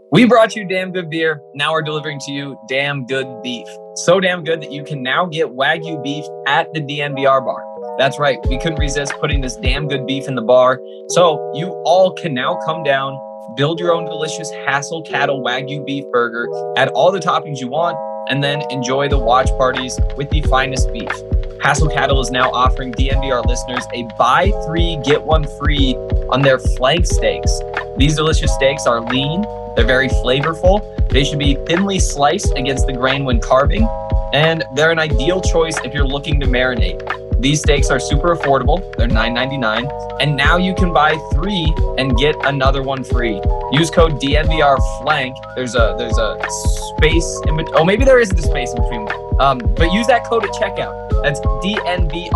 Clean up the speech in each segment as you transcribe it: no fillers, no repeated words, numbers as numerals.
We brought you damn good beer. Now we're delivering to you damn good beef. So damn good that you can now get Wagyu beef at the DNVR bar. That's right. We couldn't resist putting this damn good beef in the bar. So you all can now come down, build your own delicious Hassel Cattle Wagyu beef burger, add all the toppings you want, and then enjoy the watch parties with the finest beef. Hassel Cattle is now offering DNVR listeners a buy 3, get 1 free on their flank steaks. These delicious steaks are lean. They're very flavorful. They should be thinly sliced against the grain when carving, and they're an ideal choice if you're looking to marinate. These steaks are super affordable. They're $9.99, and now you can buy 3 and get another one free. Use code DNVRFlank. There's a space in between. Oh, maybe there isn't a space in between. But use that code at checkout. That's DNVRFLANK.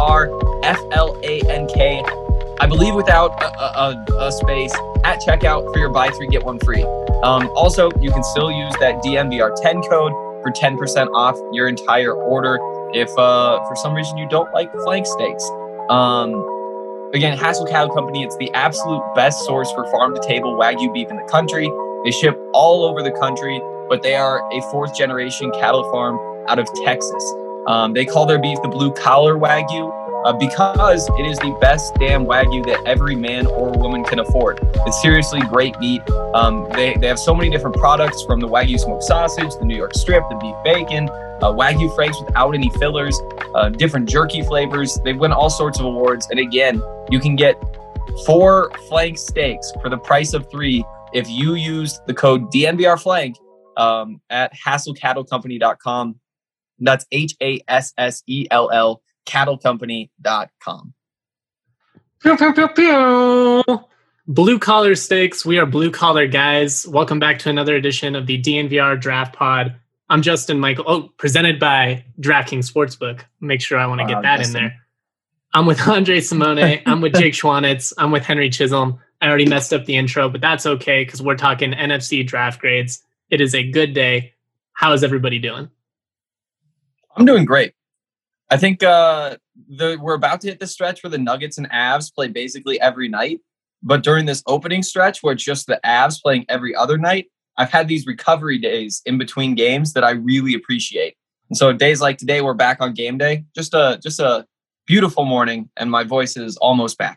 I believe without a space at checkout for your buy 3 get 1 free. Also, you can still use that DNVR10 code for 10% off your entire order if for some reason you don't like flank steaks. Again, Hassel Cattle Company, it's the absolute best source for farm-to-table Wagyu beef in the country. They ship all over the country, but they are a 4th-generation cattle farm out of Texas. They call their beef the blue-collar Wagyu because it is the best damn Wagyu that every man or woman can afford. It's seriously great meat. They have so many different products, from the Wagyu smoked sausage, the New York strip, the beef bacon, Wagyu franks without any fillers, different jerky flavors. They've won all sorts of awards. And again, you can get 4 flank steaks for the price of 3 if you use the code DNVRFlank at HassellCattleCompany.com. That's HASSELL cattlecompany.com. Pew, pew, pew, pew. Blue collar steaks. We are blue collar guys. Welcome back to another edition of the DNVR Draft Pod. I'm Justin Michael. Oh, presented by DraftKings Sportsbook. Make sure I want to get that Justin in there. I'm with Andre Simone. I'm with Jake Schwanitz. I'm with Henry Chisholm. I already messed up the intro, but that's okay because we're talking NFC draft grades. It is a good day. How is everybody doing? I'm doing great. I think we're about to hit the stretch where the Nuggets and Avs play basically every night. But during this opening stretch where it's just the Avs playing every other night, I've had these recovery days in between games that I really appreciate. And so days like today, we're back on game day. Just a beautiful morning, and my voice is almost back.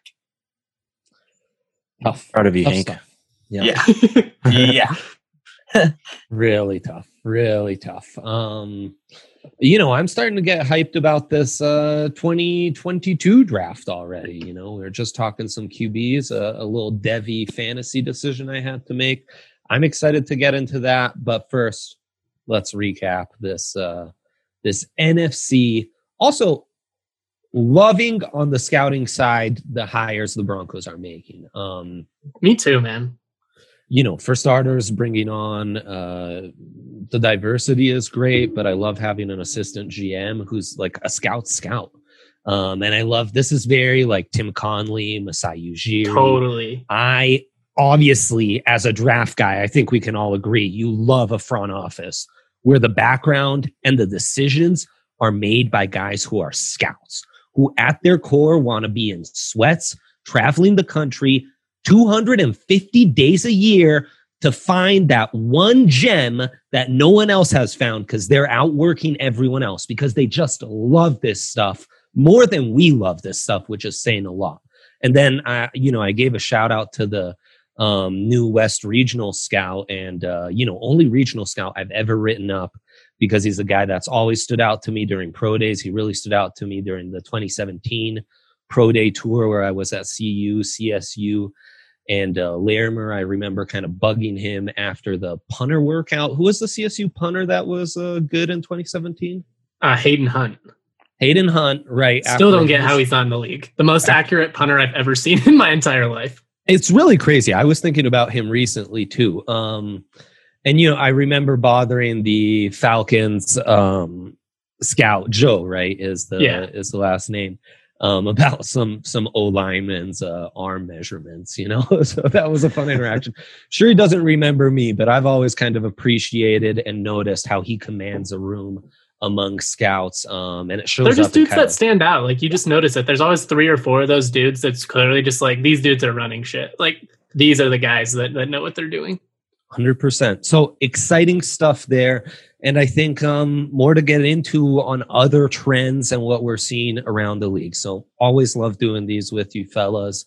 Tough. Proud of you, Hank. Yeah. Yeah. Really tough. Really tough. I'm starting to get hyped about this 2022 draft already. We were just talking some QBs, a little Devy fantasy decision I had to make. I'm excited to get into that. But first, let's recap this NFC. Also, loving on the scouting side the hires the Broncos are making. Me too, man. For starters, bringing on the diversity is great, but I love having an assistant GM who's like a scout. And I love, this is very like Tim Conley, Masai Ujiri. Totally. I obviously, as a draft guy, I think we can all agree, you love a front office where the background and the decisions are made by guys who are scouts, who at their core want to be in sweats, traveling the country 250 days a year to find that one gem that no one else has found because they're outworking everyone else because they just love this stuff more than we love this stuff, which is saying a lot. And then, I gave a shout out to the new West regional scout and, only regional scout I've ever written up because he's a guy that's always stood out to me during pro days. He really stood out to me during the 2017 pro day tour where I was at CU, CSU. And Larimer, I remember kind of bugging him after the punter workout. Who was the CSU punter that was good in 2017? Hayden Hunt. Hayden Hunt, right. Still don't get how he's not in the league. The most accurate punter I've ever seen in my entire life. It's really crazy. I was thinking about him recently, too. I remember bothering the Falcons scout, Joe, right, is the last name. About some O-lineman's arm measurements, so that was a fun interaction. Sure, he doesn't remember me, but I've always kind of appreciated and noticed how he commands a room among scouts. And it shows they're just up dudes that stand out. Like, you just notice it. There's always 3 or 4 of those dudes that's clearly just like, these dudes are running shit. Like, these are the guys that know what they're doing. 100%. So exciting stuff there. And I think more to get into on other trends and what we're seeing around the league. So always love doing these with you fellas.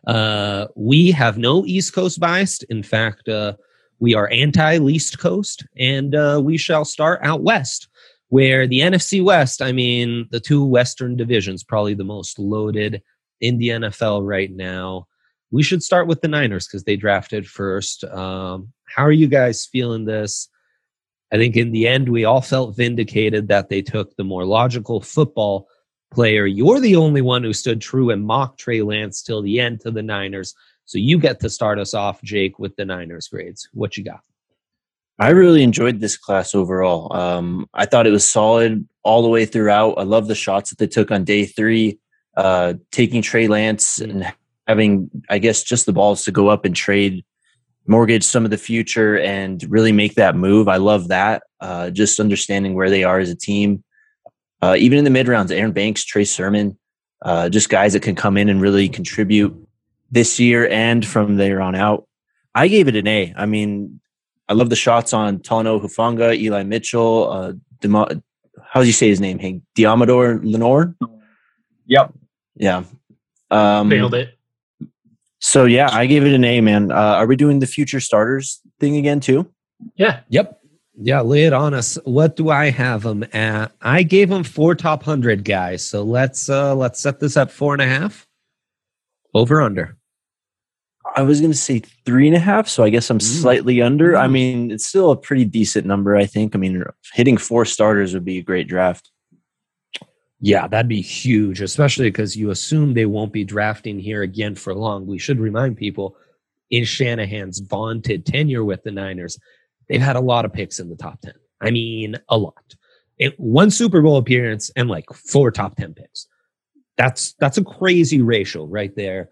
We have no East Coast bias. In fact, we are anti-Least Coast, and we shall start out West, where the NFC West, I mean, the two Western divisions, probably the most loaded in the NFL right now. We should start with the Niners because they drafted first. How are you guys feeling this? I think in the end, we all felt vindicated that they took the more logical football player. You're the only one who stood true and mocked Trey Lance till the end to the Niners. So you get to start us off, Jake, with the Niners grades. What you got? I really enjoyed this class overall. I thought it was solid all the way throughout. I love the shots that they took on day 3, taking Trey Lance and having, I guess, just the balls to go up and trade, mortgage some of the future and really make that move. I love that. Just understanding where they are as a team. Even in the mid rounds, Aaron Banks, Trey Sermon, just guys that can come in and really contribute this year and from there on out. I gave it an A. I mean, I love the shots on Talanoa Hufanga, Eli Mitchell, how do you say his name, Hank? Diamador Lenore? Yep. Yeah. Nailed it. So, yeah, I gave it an A, man. Are we doing the future starters thing again, too? Yeah. Yep. Yeah, lay it on us. What do I have them at? I gave them 4 top 100 guys. So let's set this at 4.5. Over under. I was going to say 3.5, so I guess I'm slightly under. I mean, it's still a pretty decent number, I think. I mean, hitting 4 starters would be a great draft. Yeah, that'd be huge, especially because you assume they won't be drafting here again for long. We should remind people, in Shanahan's vaunted tenure with the Niners, they've had a lot of picks in the top 10. I mean, a lot. 1 Super Bowl appearance and like 4 top 10 picks. That's a crazy ratio right there.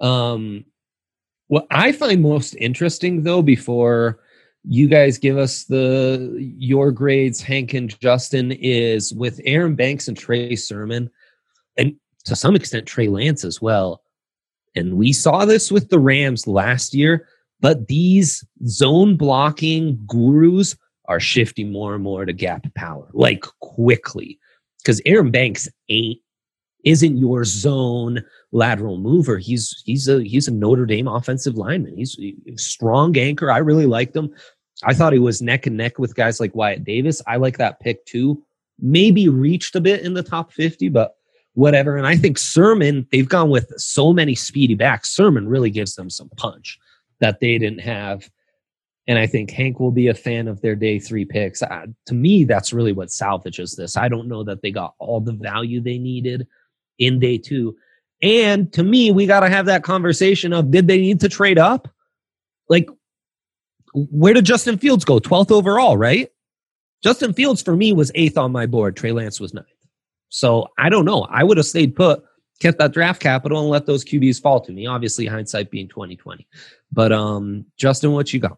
What I find most interesting, though, before you guys give us your grades, Hank and Justin, is with Aaron Banks and Trey Sermon, and to some extent Trey Lance as well. And we saw this with the Rams last year, but these zone blocking gurus are shifting more and more to gap power, like quickly, because Aaron Banks isn't your zone lateral mover. He's a Notre Dame offensive lineman. He's a strong anchor. I really liked him. I thought he was neck and neck with guys like Wyatt Davis. I like that pick too. Maybe reached a bit in the top 50, but whatever. And I think Sermon, they've gone with so many speedy backs. Sermon really gives them some punch that they didn't have. And I think Hank will be a fan of their day 3 picks. To me, that's really what salvages this. I don't know that they got all the value they needed in day 2. And to me, we got to have that conversation of, did they need to trade up? Like, where did Justin Fields go? 12th overall, right? Justin Fields for me was 8th on my board. Trey Lance was 9th. So I don't know. I would have stayed put, kept that draft capital, and let those QBs fall to me. Obviously, hindsight being 2020. But Justin, what you got?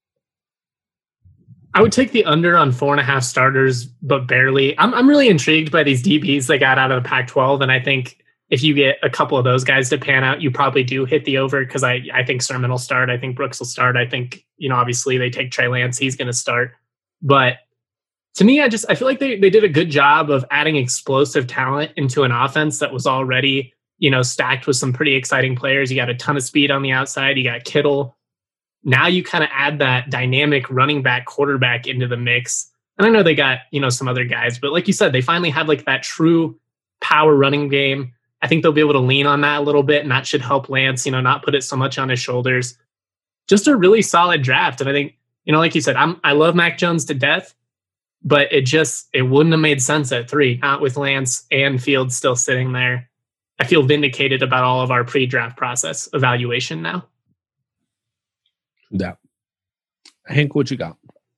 I would take the under on 4.5 starters, but barely. I'm really intrigued by these DBs they got out of the Pac-12, and I think if you get a couple of those guys to pan out, you probably do hit the over, because I think Sermon will start. I think Brooks will start. I think, obviously they take Trey Lance. He's going to start. But to me, I feel like they did a good job of adding explosive talent into an offense that was already, stacked with some pretty exciting players. You got a ton of speed on the outside. You got Kittle. Now you kind of add that dynamic running back quarterback into the mix. And I know they got, some other guys, but like you said, they finally have like that true power running game. I think they'll be able to lean on that a little bit, and that should help Lance, not put it so much on his shoulders. Just a really solid draft. And I think, like you said, I love Mac Jones to death, but it wouldn't have made sense at 3, not with Lance and Fields still sitting there. I feel vindicated about all of our pre-draft process evaluation now. Yeah. Hank, what you got?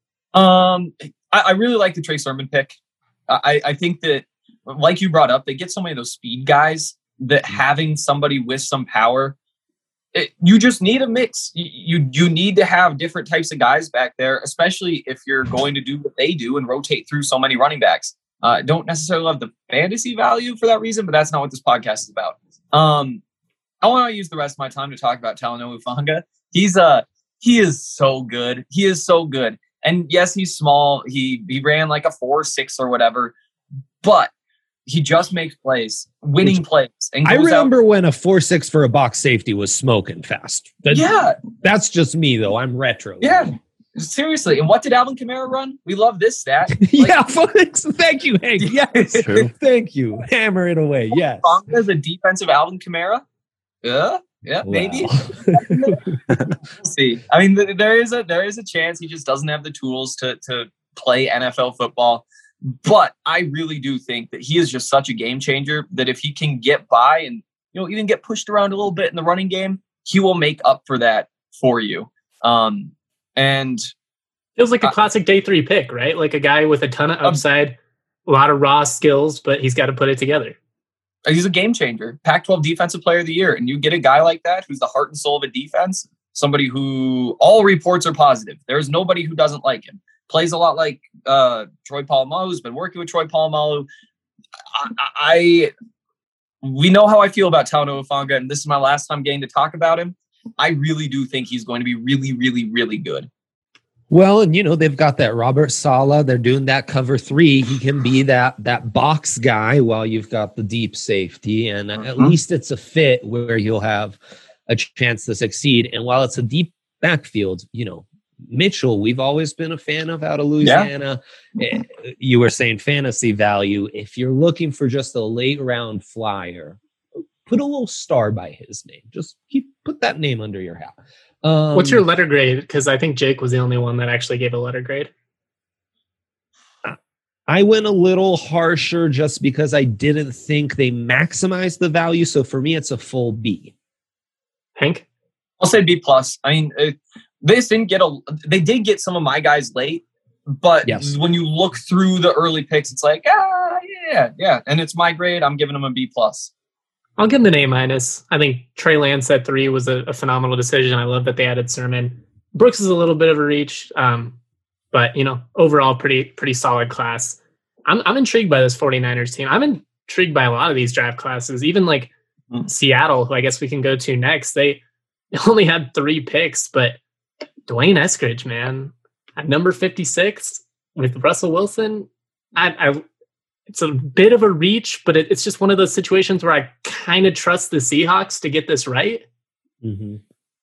I really like the Trey Sermon pick. I think that, like you brought up, they get so many of those speed guys that having somebody with some power, you just need a mix. You need to have different types of guys back there, especially if you're going to do what they do and rotate through so many running backs. Don't necessarily love the fantasy value for that reason, but that's not what this podcast is about. I want to use the rest of my time to talk about Talanoa Hufanga. He's He is so good. He is so good. And yes, he's small. He ran like a 4.6 or whatever, but he just makes plays, winning plays. And I remember when a 4.6 for a box safety was smoking fast. That's just me though. I'm retro. Yeah. Seriously. And what did Alvin Kamara run? We love this stat. Yeah. Thank you, Hank. Yes. Thank you. Hammer it away. Yes. As a defensive Alvin Kamara? Yeah, maybe. We'll see. I mean, there is a chance he just doesn't have the tools to play NFL football. But I really do think that he is just such a game changer that if he can get by and even get pushed around a little bit in the running game, he will make up for that for you. And feels like a classic day 3 pick, right? Like a guy with a ton of upside, a lot of raw skills, but he's got to put it together. He's a game changer. Pac-12 Defensive Player of the Year. And you get a guy like that who's the heart and soul of a defense, somebody who all reports are positive. There's nobody who doesn't like him. Plays a lot like Troy Polamalu, who's been working with Troy Polamalu. We know how I feel about Talanoa Hufanga, and this is my last time getting to talk about him. I really do think he's going to be really, really, really good. Well, and they've got that Robert Saleh. They're doing that cover 3. He can be that box guy while you've got the deep safety, and at least it's a fit where you'll have a chance to succeed. And while it's a deep backfield, Mitchell, we've always been a fan of out of Louisiana. Yeah. You were saying fantasy value. If you're looking for just a late round flyer, put a little star by his name. Just put that name under your hat. What's your letter grade? Because I think Jake was the only one that actually gave a letter grade. I went a little harsher just because I didn't think they maximized the value. So for me, it's a full B. Hank? I'll say B+. I mean, they did get some of my guys late, but when you look through the early picks, it's like, yeah. And it's my grade. I'm giving them a B+. I'll give them an A-. I think Trey Lance at 3 was a phenomenal decision. I love that they added Sermon. Brooks is a little bit of a reach, but overall pretty solid class. I'm intrigued by this 49ers team. I'm intrigued by a lot of these draft classes, even like Seattle, who I guess we can go to next. They only had 3 picks, but Dwayne Eskridge, man, at number 56 with Russell Wilson, it's a bit of a reach, but it's just one of those situations where I kind of trust the Seahawks to get this right. Mm-hmm.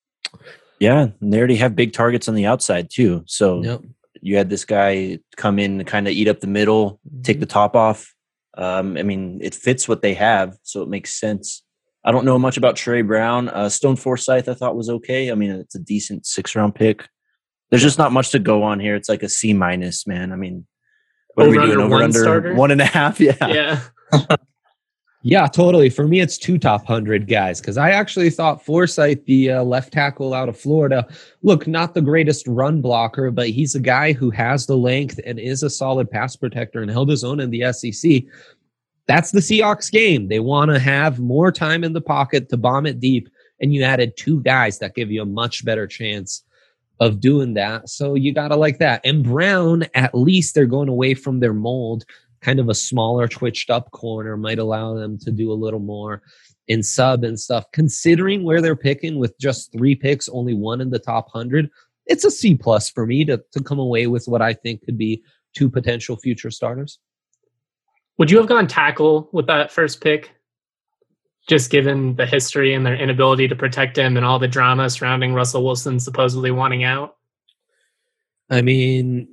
Yeah, and they already have big targets on the outside too. So you had this guy come in and kind of eat up the middle, take the top off. I mean, it fits what they have, so it makes sense. I don't know much about Trey Brown. Stone Forsythe I thought was okay. I mean, it's a decent 6th-round pick. There's just not much to go on here. It's like a C-, man. I mean, what are we doing? Over under 1.5? Yeah. Yeah, totally. For me, it's 2 top 100 guys because I actually thought Forsythe, the left tackle out of Florida, look, not the greatest run blocker, but he's a guy who has the length and is a solid pass protector and held his own in the SEC. That's the Seahawks game. They want to have more time in the pocket to bomb it deep, and you added 2 guys that give you a much better chance of doing that. So you got to like that. And Brown, at least they're going away from their mold. Kind of a smaller, twitched up corner might allow them to do a little more in sub and stuff. Considering where they're picking with just 3 picks, only 1 in the top 100, it's a C+ for me to come away with what I think could be 2 potential future starters. Would you have gone tackle with that first pick? Just given the history and their inability to protect him and all the drama surrounding Russell Wilson supposedly wanting out? I mean,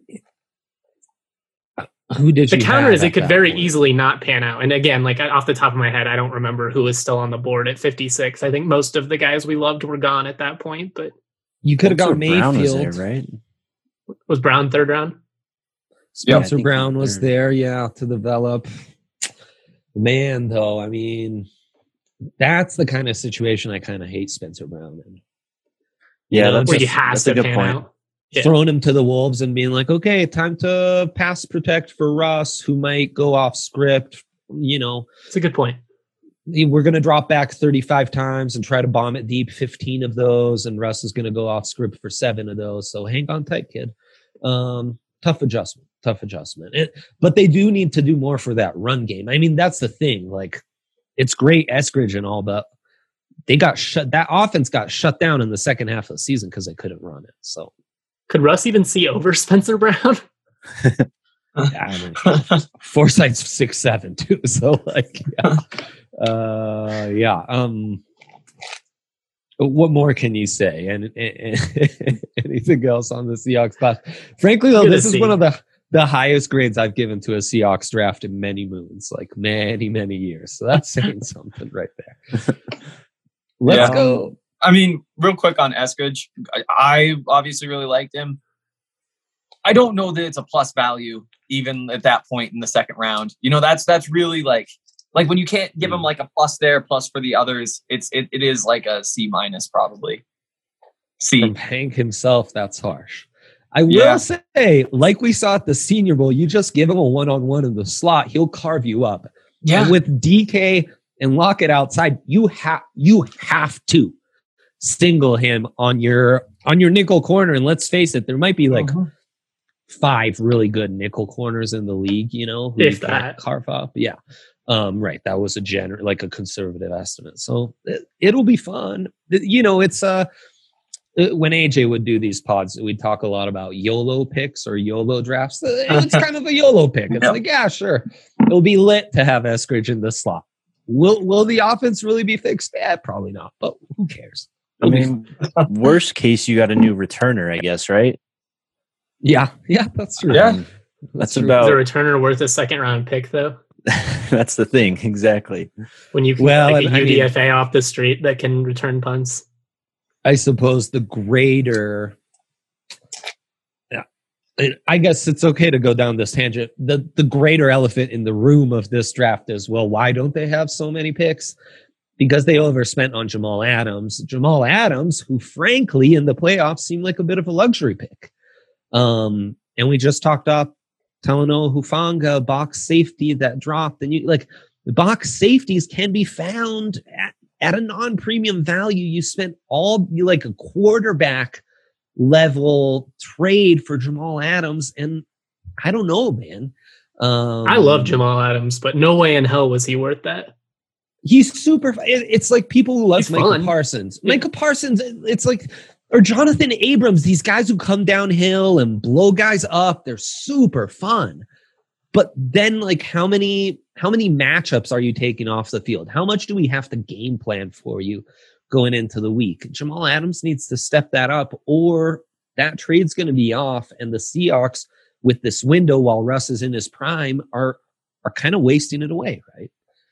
who did the counter is it could very easily not pan out. And again, like off the top of my head, I don't remember who was still on the board at 56. I think most of the guys we loved were gone at that point, but you could have gone Mayfield. Brown was there, right? Was Brown 3rd round? Spencer Brown was there, to develop. Man, though, I mean, that's the kind of situation I kind of hate Spencer Brown in. Yeah, where you have to pan out. Yeah. Throwing him to the Wolves and being like, okay, time to pass protect for Russ, who might go off script. It's a good point. We're going to drop back 35 times and try to bomb it deep, 15 of those, and Russ is going to go off script for 7 of those. So hang on tight, kid. Tough adjustment. But they do need to do more for that run game. I mean, that's the thing. Like, it's great Eskridge and all, but they got shut. That offense got shut down in the second half of the season because they couldn't run it. So could Russ even see over Spencer Brown? I mean, Forsythe's 6'7" too. So like, what more can you say? And anything else on the Seahawks class? Frankly, though, this is one of the highest grades I've given to a Seahawks draft in many moons, like many years. So that's saying something right there. Let's go. I mean, real quick on Eskridge, I obviously really liked him. I don't know that it's a plus value even at that point in the second round. You know, that's really like when you can't give him like a plus there, plus for the others, it is like a C minus probably. C. From Hank himself, that's harsh. I will say, like we saw at the Senior Bowl, you just give him a one-on-one in the slot, he'll carve you up. Yeah. And with DK and Lockett outside, you have to single him on your nickel corner. And let's face it, there might be like 5 really good nickel corners in the league, you know, who if you that carve up. Yeah. Right. That was a conservative estimate. So it'll be fun. You know, it's when AJ would do these pods, we'd talk a lot about YOLO picks or YOLO drafts. It's kind of a YOLO pick. It's like, yeah, sure. It'll be lit to have Eskridge in the slot. Will the offense really be fixed? Probably not, but who cares? I mean, worst case, you got a new returner, I guess, right? Yeah, that's true. Yeah, that's about. Is a returner worth a second round pick, though? That's the thing, exactly. When you can a UDFA off the street that can return punts. I suppose the greater. I guess it's okay to go down this tangent. The greater elephant in the room of this draft is, well, why don't they have so many picks? Because they overspent on Jamal Adams. Jamal Adams, who frankly in the playoffs seemed like a bit of a luxury pick. And we just talked up Talanoa Hufanga, box safety that dropped. And the box safeties can be found at a non-premium value. You spent a quarterback level trade for Jamal Adams, and I don't know, man. I love Jamal Adams, but no way in hell was he worth that. He's super. It's like people who love Micah Parsons. Yeah. Micah Parsons, it's like, or Jonathan Abrams, these guys who come downhill and blow guys up. They're super fun. But then, like, how many matchups are you taking off the field? How much do we have to game plan for you going into the week? Jamal Adams needs to step that up, or that trade's going to be off. And the Seahawks, with this window while Russ is in his prime, are kind of wasting it away, right?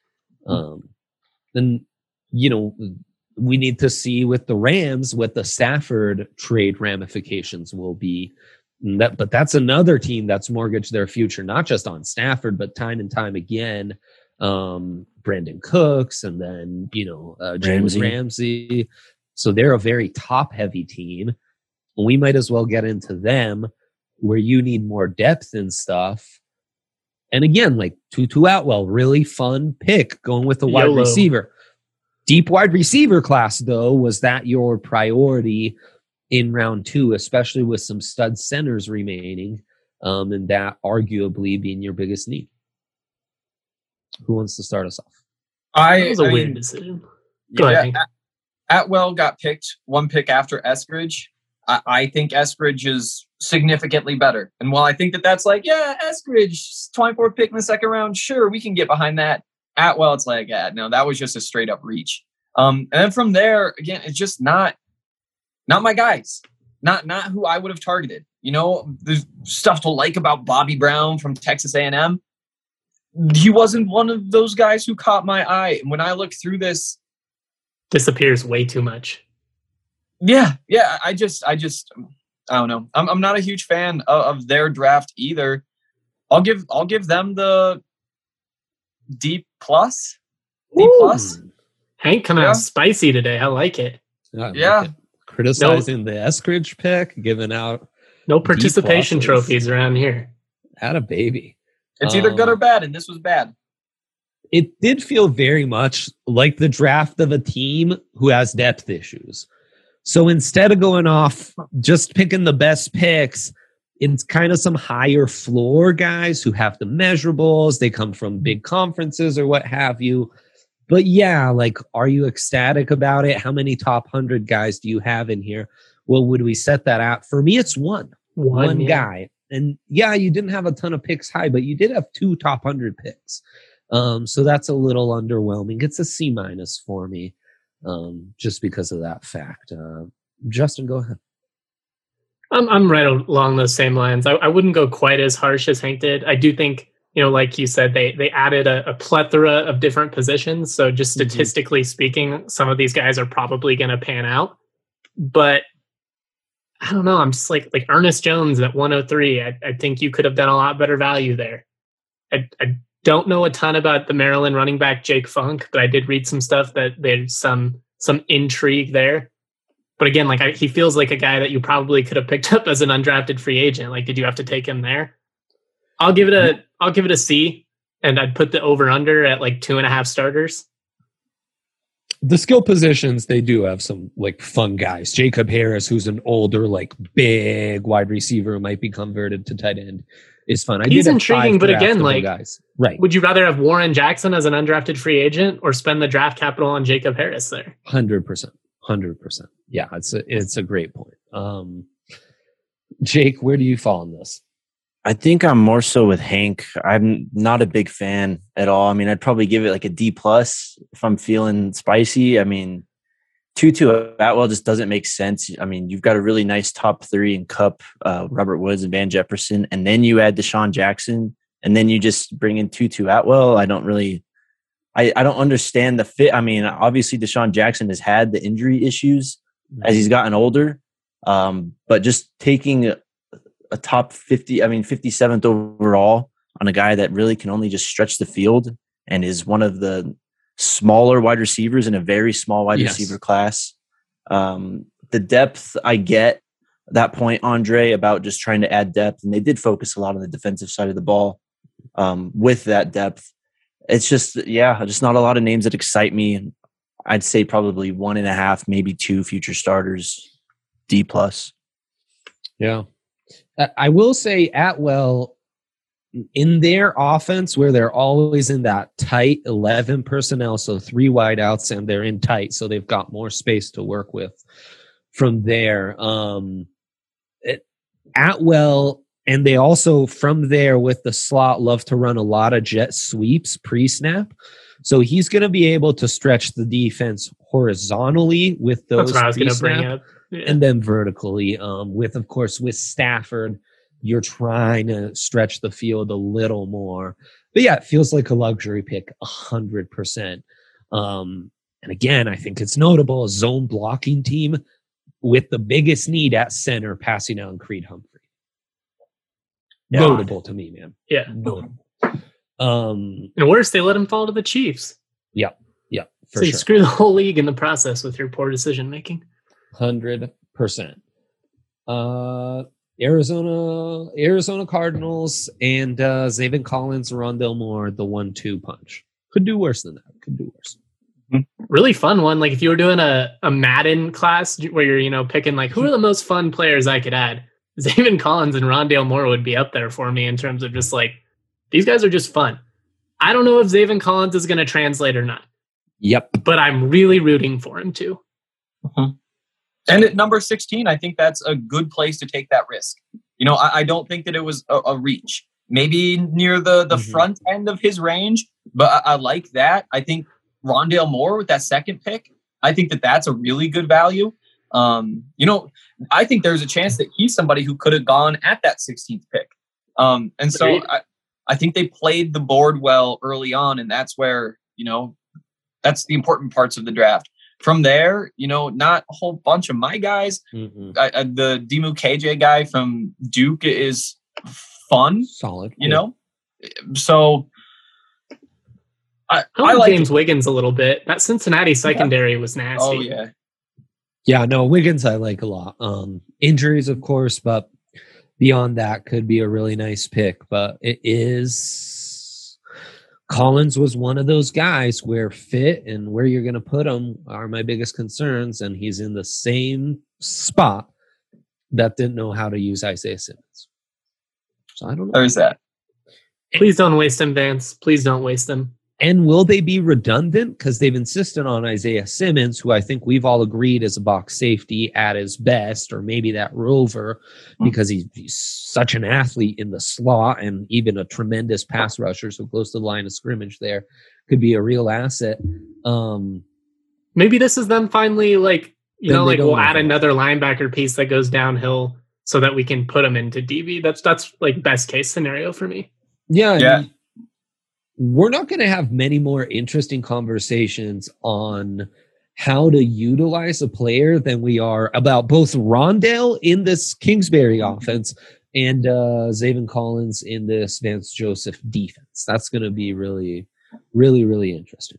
Then, you know, we need to see with the Rams what the Stafford trade ramifications will be. But that's another team that's mortgaged their future, not just on Stafford, but time and time again. Brandon Cooks, and then, you know, James Ramsey. So they're a very top-heavy team. We might as well get into them, where you need more depth and stuff. And again, like Tutu Atwell, really fun pick going with the wide receiver. Deep wide receiver class, though, was that your priority in round 2, especially with some stud centers remaining, and that arguably being your biggest need? Who wants to start us off? That was a weird decision. Go ahead. Atwell got picked 1 pick after Eskridge. I think Eskridge is significantly better. And while I think that's like, yeah, Eskridge, 24th pick in the second round, sure, we can get behind that. Atwell, it's like, yeah, no, that was just a straight up reach. And then from there, again, it's just not my guys. Not who I would have targeted. You know, there's stuff to like about Bobby Brown from Texas A&M. He wasn't one of those guys who caught my eye. And when I look through this, disappears way too much. Yeah. I don't know. I'm not a huge fan of their draft either. I'll give them the D plus. Hank coming out spicy today. I like it. Yeah. Criticizing the Eskridge pick, giving out no participation trophies around here. Had a baby. It's either good or bad, and this was bad. It did feel very much like the draft of a team who has depth issues. So instead of going off just picking the best picks, it's kind of some higher floor guys who have the measurables. They come from big conferences or what have you. But yeah, like, are you ecstatic about it? How many top 100 guys do you have in here? Well, would we set that out? For me, it's one yeah. guy. And yeah, you didn't have a ton of picks high, but you did have 2 top 100 picks. So that's a little underwhelming. It's a C- for me, just because of that fact. Justin, go ahead. I'm right along those same lines. I wouldn't go quite as harsh as Hank did. I do think, like you said, they added a plethora of different positions. So just statistically speaking, some of these guys are probably going to pan out. But I don't know. I'm just like Ernest Jones at 103. I think you could have done a lot better value there. I don't know a ton about the Maryland running back Jake Funk, but I did read some stuff that there's some intrigue there. But again, he feels like a guy that you probably could have picked up as an undrafted free agent. Like, did you have to take him there? I'll give it a C, and I'd put the over under at 2.5 starters. The skill positions, they do have some fun guys. Jacob Harris, who's an older, big wide receiver who might be converted to tight end, is fun. He's intriguing, but again, guys. Right. Would you rather have Warren Jackson as an undrafted free agent or spend the draft capital on Jacob Harris there? 100%. 100%. Yeah, it's a great point. Jake, where do you fall on this? I think I'm more so with Hank. I'm not a big fan at all. I mean, I'd probably give it a D+ if I'm feeling spicy. I mean, Tutu Atwell just doesn't make sense. I mean, you've got a really nice top 3 in Kupp, Robert Woods, and Van Jefferson, and then you add Deshaun Jackson, and then you just bring in Tutu Atwell. I don't understand the fit. I mean, obviously Deshaun Jackson has had the injury issues as he's gotten older, but just taking a top 50, 57th overall on a guy that really can only just stretch the field and is one of the smaller wide receivers in a very small wide receiver class. The depth, I get that point, Andre, about just trying to add depth. And they did focus a lot on the defensive side of the ball with that depth. It's just not a lot of names that excite me. I'd say probably 1.5, maybe 2 future starters, D+. Yeah. I will say Atwell, in their offense where they're always in that tight 11 personnel, so 3 wideouts, and they're in tight, so they've got more space to work with from there. Atwell, and they also from there with the slot love to run a lot of jet sweeps pre-snap. So he's going to be able to stretch the defense horizontally with those. That's what I was going to bring up. Yeah. And then vertically, with Stafford, you're trying to stretch the field a little more. But yeah, it feels like a luxury pick, 100%. And again, I think it's notable, a zone blocking team with the biggest need at center, passing out Creed Humphrey. Yeah. Notable to me, man. Yeah. Notable. And worse, they let him fall to the Chiefs. Yeah. So you screw the whole league in the process with your poor decision making. 100%. Arizona Cardinals and Zaven Collins, Rondale Moore, the 1-2 punch. Could do worse than that. Could do worse. Really fun one. If you were doing a Madden class where you're picking who are the most fun players I could add, Zaven Collins and Rondale Moore would be up there for me in terms of just these guys are just fun. I don't know if Zaven Collins is going to translate or not. Yep. But I'm really rooting for him too. And at number 16, I think that's a good place to take that risk. I don't think that it was a reach. Maybe near the front end of his range, but I like that. I think Rondale Moore with that second pick, I think that's a really good value. I think there's a chance that he's somebody who could have gone at that 16th pick. And so I think they played the board well early on, and that's where, that's the important parts of the draft. From there, not a whole bunch of my guys. The Dimu KJ guy from Duke is fun. Solid. So I like James Wiggins a little bit. That Cincinnati secondary was nasty. Oh, yeah. Yeah, no, Wiggins I like a lot. Injuries, of course, but beyond that could be a really nice pick. But it is... Collins was one of those guys where fit and where you're going to put him are my biggest concerns, and he's in the same spot that didn't know how to use Isaiah Simmons. So I don't know. There's that. Please don't waste him, Vance. Please don't waste him. And will they be redundant? Because they've insisted on Isaiah Simmons, who I think we've all agreed is a box safety at his best, or maybe that rover, because he's such an athlete in the slot and even a tremendous pass rusher, so close to the line of scrimmage there, could be a real asset. Maybe this is them finally, like, we'll add know. another linebacker piece that goes downhill so that we can put them into DB. That's like best case scenario for me. Yeah. Yeah. I mean, we're not going to have many more interesting conversations on how to utilize a player than we are about both Rondale in this Kingsbury offense and Zaven Collins in this Vance Joseph defense. That's going to be really, really, really interesting.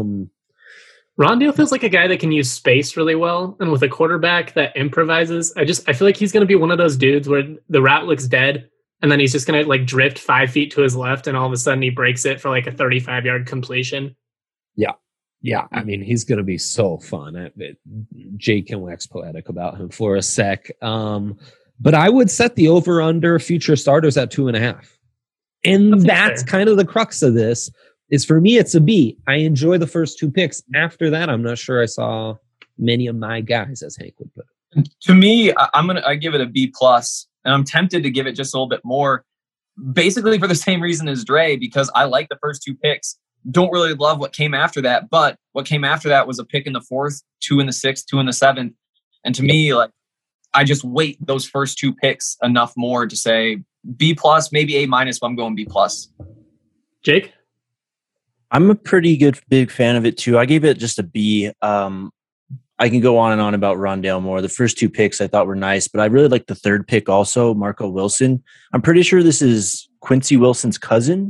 Rondale feels like a guy that can use space really well, and with a quarterback that improvises, I feel like he's going to be one of those dudes where the route looks dead, and then he's just going to like drift 5 feet to his left, and all of a sudden he breaks it for like a 35-yard completion. Yeah. I mean, he's going to be so fun. Jake can wax poetic about him for a sec. But I would set the over-under future starters at 2.5. And that's kind of the crux of this. Is for me, it's a B. I enjoy the first 2 picks. After that, I'm not sure I saw many of my guys, as Hank would put it. To me, I give it a B+, and I'm tempted to give it just a little bit more, basically for the same reason as Dre, because I like the first 2 picks. Don't really love what came after that, but what came after that was a pick in the 4th, 2 in the 6th, 2 in the 7th. And to me, like, I just weight those first 2 picks enough more to say B+, maybe A-, but I'm going B+. Jake? I'm a pretty big fan of it too. I gave it just a B. I can go on and on about Rondale more. The first 2 picks I thought were nice, but I really like the 3rd pick also, Marco Wilson. I'm pretty sure this is Quincy Wilson's cousin.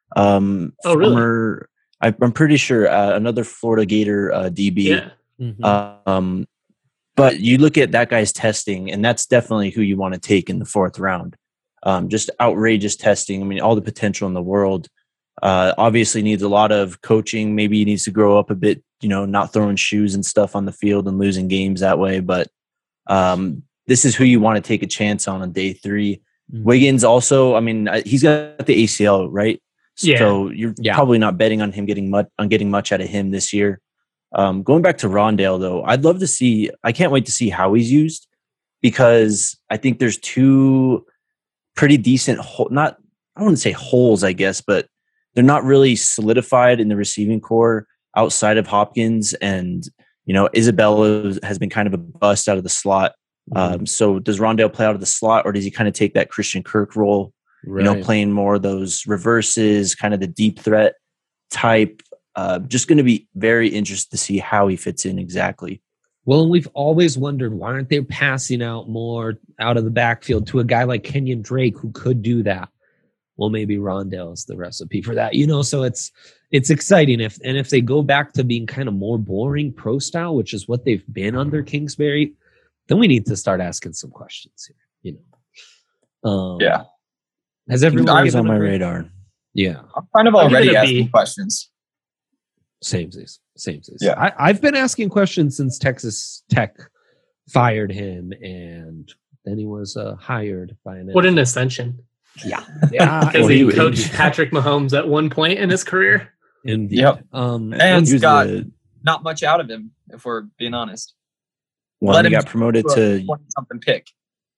Really? I'm pretty sure another Florida Gator DB. Yeah. Mm-hmm. But you look at that guy's testing, and that's definitely who you want to take in the 4th round. Just outrageous testing. I mean, all the potential in the world. Obviously needs a lot of coaching. Maybe he needs to grow up a bit, not throwing shoes and stuff on the field and losing games that way. But this is who you want to take a chance on day 3. Mm-hmm. Wiggins also, I mean, he's got the ACL, right? Yeah. So you're probably not betting on him getting much out of him this year. Going back to Rondale, though, I can't wait to see how he's used, because I think there's 2 pretty decent, I wouldn't say holes, I guess, but they're not really solidified in the receiving core outside of Hopkins, and Isabella has been kind of a bust out of the slot. So does Rondale play out of the slot, or does he kind of take that Christian Kirk role, playing more of those reverses, kind of the deep threat type? Just going to be very interested to see how he fits in exactly. Well, and we've always wondered, why aren't they passing out more out of the backfield to a guy like Kenyon Drake who could do that? Well, maybe Rondale is the recipe for that, So it's exciting if they go back to being kind of more boring pro style, which is what they've been under Kingsbury, then we need to start asking some questions here. Yeah. Has everyone given on my radar? Yeah, I'm kind of already asking questions. Same. Yeah, I've been asking questions since Texas Tech fired him, and then he was hired by an. What an ascension! Yeah. Because he coached Patrick Mahomes at one point in his career. Indeed. Yep. And got not much out of him, if we're being honest. Well, he got promoted to 20-something pick.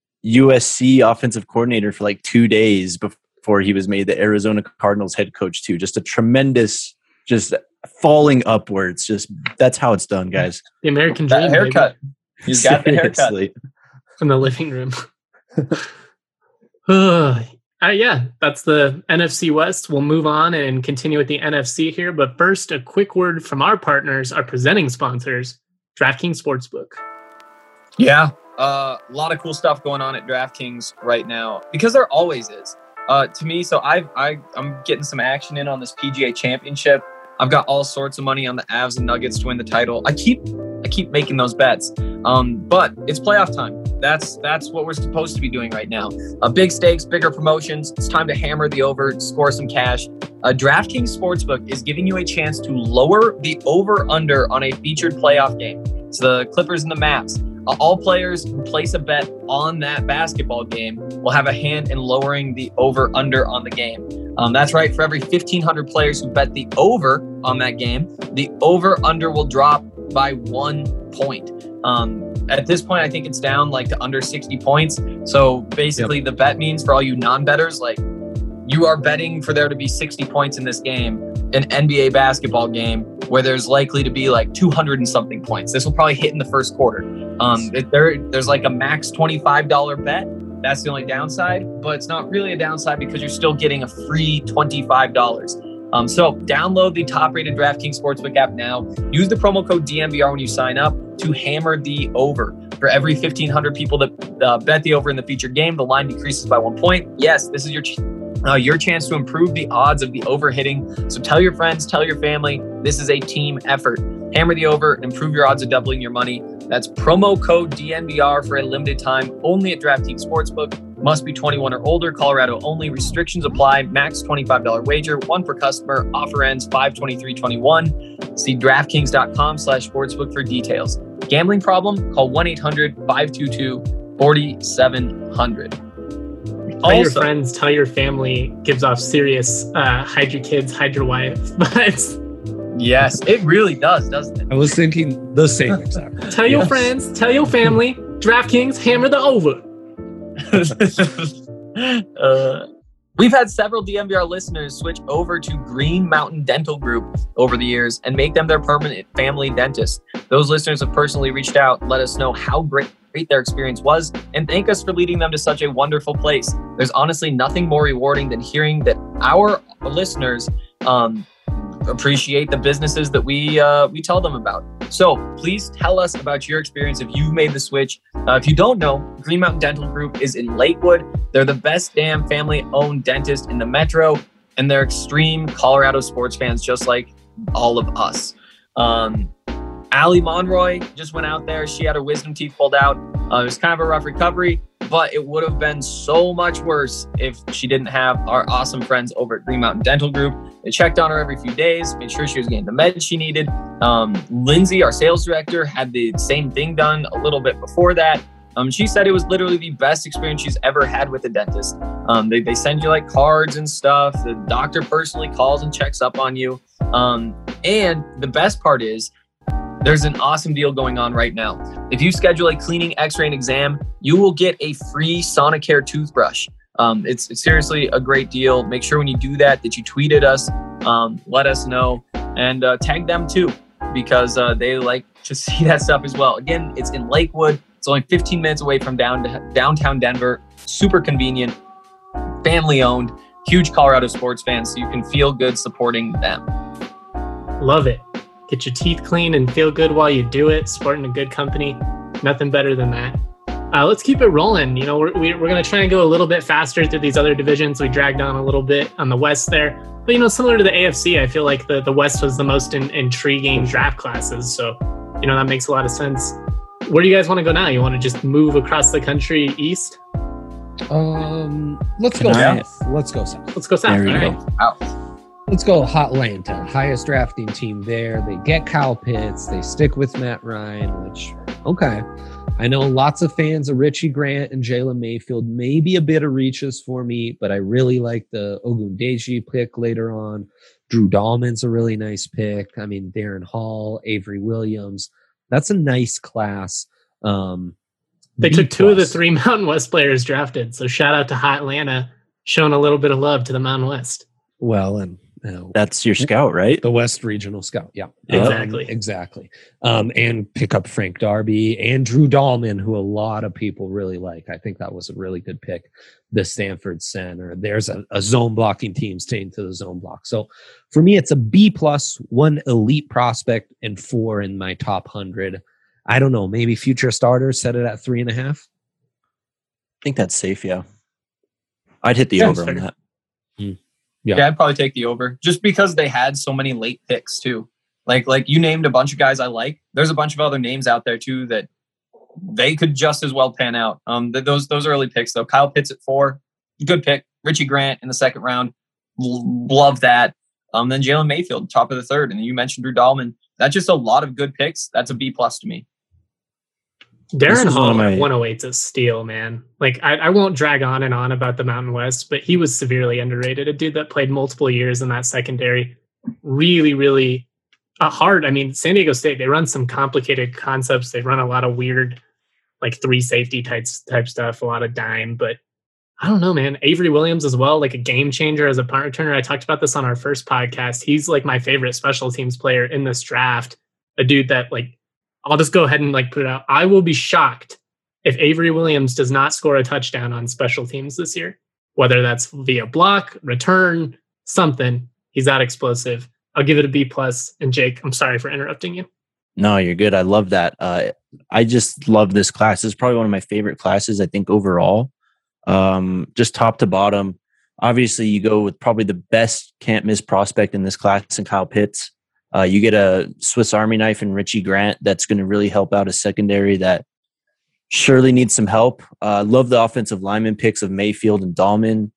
USC offensive coordinator for like 2 days before he was made the Arizona Cardinals head coach too. Just a tremendous, just falling upwards. Just that's how it's done, guys. The American dream. That haircut. He's got the haircut from the living room. Yeah, that's the NFC West. We'll move on and continue with the NFC here. But first, a quick word from our partners, our presenting sponsors, DraftKings Sportsbook. Yeah, a lot of cool stuff going on at DraftKings right now, because there always is. To me, so I'm getting some action in on this PGA Championship. I've got all sorts of money on the Avs and Nuggets to win the title. I keep making those bets, but it's playoff time. That's what we're supposed to be doing right now. Big stakes, bigger promotions. It's time to hammer the over, score some cash. DraftKings Sportsbook is giving you a chance to lower the over-under on a featured playoff game. It's the Clippers and the Mavs. All players who place a bet on that basketball game will have a hand in lowering the over-under on the game. That's right. For every 1,500 players who bet the over on that game, the over-under will drop by 1 point. At this point, I think it's down like to under 60 points. So basically, the bet means for all you non-bettors, like you are betting for there to be 60 points in this game, an NBA basketball game where there's likely to be like 200 and something points. This will probably hit in the first quarter. There's like a max $25 bet. That's the only downside, but it's not really a downside because you're still getting a free $25. So download the top-rated DraftKings Sportsbook app now. Use the promo code DNVR when you sign up to hammer the over. For every 1,500 people that bet the over in the featured game, the line decreases by 1 point. Yes, this is your chance to improve the odds of the over hitting. So tell your friends, tell your family, this is a team effort. Hammer the over and improve your odds of doubling your money. That's promo code DNVR for a limited time only at DraftKings Sportsbook. Must be 21 or older. Colorado only. Restrictions apply. Max $25 wager. One per customer. Offer ends 5/23/21. See DraftKings.com/sportsbook for details. Gambling problem? Call 1-800-522-4700. Tell your friends, tell your family. Gives off serious hide your kids, hide your wife. But yes, it really does, doesn't it? I was thinking the same exactly. Tell your friends, tell your family. DraftKings, hammer the over. We've had several DNVR listeners switch over to Green Mountain Dental Group over the years and make them their permanent family dentist. Those listeners have personally reached out, let us know how great their experience was, and thank us for leading them to such a wonderful place. There's honestly nothing more rewarding than hearing that our listeners appreciate the businesses that we tell them about. So please tell us about your experience if you've made the switch. If you don't know, Green Mountain Dental Group is in Lakewood. They're the best damn family-owned dentist in the metro, and they're extreme Colorado sports fans just like all of us. Allie Monroy just went out there. She had her wisdom teeth pulled out. It was kind of a rough recovery, but it would have been so much worse if she didn't have our awesome friends over at Green Mountain Dental Group. They checked on her every few days, made sure she was getting the meds she needed. Lindsay, our sales director, had the same thing done a little bit before that. She said it was literally the best experience she's ever had with a dentist. They send you like cards and stuff. The doctor personally calls and checks up on you. And the best part is, there's an awesome deal going on right now. If you schedule a cleaning, x-ray, and exam, you will get a free Sonicare toothbrush. It's seriously a great deal. Make sure when you do that you tweet at us, let us know, and tag them too, because they like to see that stuff as well. Again, it's in Lakewood. It's only 15 minutes away from downtown Denver. Super convenient, family-owned, huge Colorado sports fans, so you can feel good supporting them. Love it. Get your teeth clean and feel good while you do it. Supporting a good company, nothing better than that. Let's keep it rolling. You know, we're going to try and go a little bit faster through these other divisions. We dragged on a little bit on the West there. But, you know, similar to the AFC, I feel like the West was the most intriguing draft classes. So, you know, that makes a lot of sense. Where do you guys want to go now? You want to just move across the country east? Let's go south. Let's go south. Let's go south. There you go. Wow. Let's go Hotlanta, highest drafting team there. They get Kyle Pitts. They stick with Matt Ryan, which, okay. I know lots of fans of Richie Grant and Jalen Mayfield, maybe a bit of reaches for me, but I really like the Ogundeji pick later on. Drew Dahlman's a really nice pick. I mean, Darren Hall, Avery Williams. That's a nice class. They took two of the three Mountain West players drafted. So shout out to Hotlanta, showing a little bit of love to the Mountain West. Well, and that's your scout, right? The West Regional Scout. Yeah, exactly. And pick up Frank Darby and Drew Dahlman, who a lot of people really like. I think that was a really good pick. The Stanford center. There's a zone blocking team staying to the zone block. So for me, it's a B+, one elite prospect, and 4 in my top 100. I don't know. Maybe future starters set it at 3.5. I think that's safe. Yeah, I'd hit the over on that. Yeah, I'd probably take the over just because they had so many late picks too. Like you named a bunch of guys I like. There's a bunch of other names out there too that they could just as well pan out. Those early picks though. Kyle Pitts at 4, good pick. Richie Grant in the 2nd round, love that. Then Jalen Mayfield, top of the 3rd, and you mentioned Drew Dahlman. That's just a lot of good picks. That's a B+ to me. Darren Hall at 108's a steal, man. Like, I won't drag on and on about the Mountain West, but he was severely underrated. A dude that played multiple years in that secondary. Really, really hard. I mean, San Diego State, they run some complicated concepts. They run a lot of weird, like 3 safety type stuff, a lot of dime. But I don't know, man. Avery Williams as well, like a game changer as a punt returner. I talked about this on our first podcast. He's like my favorite special teams player in this draft. A dude that, like, I'll just go ahead and like put it out. I will be shocked if Avery Williams does not score a touchdown on special teams this year, whether that's via block, return, something. He's that explosive. I'll give it a B+. And Jake, I'm sorry for interrupting you. No, you're good. I love that. I just love this class. It's probably one of my favorite classes, I think, overall. Just top to bottom. Obviously, you go with probably the best can't miss prospect in this class, and Kyle Pitts. You get a Swiss Army knife in Richie Grant that's going to really help out a secondary that surely needs some help. Love the offensive lineman picks of Mayfield and Dahlman.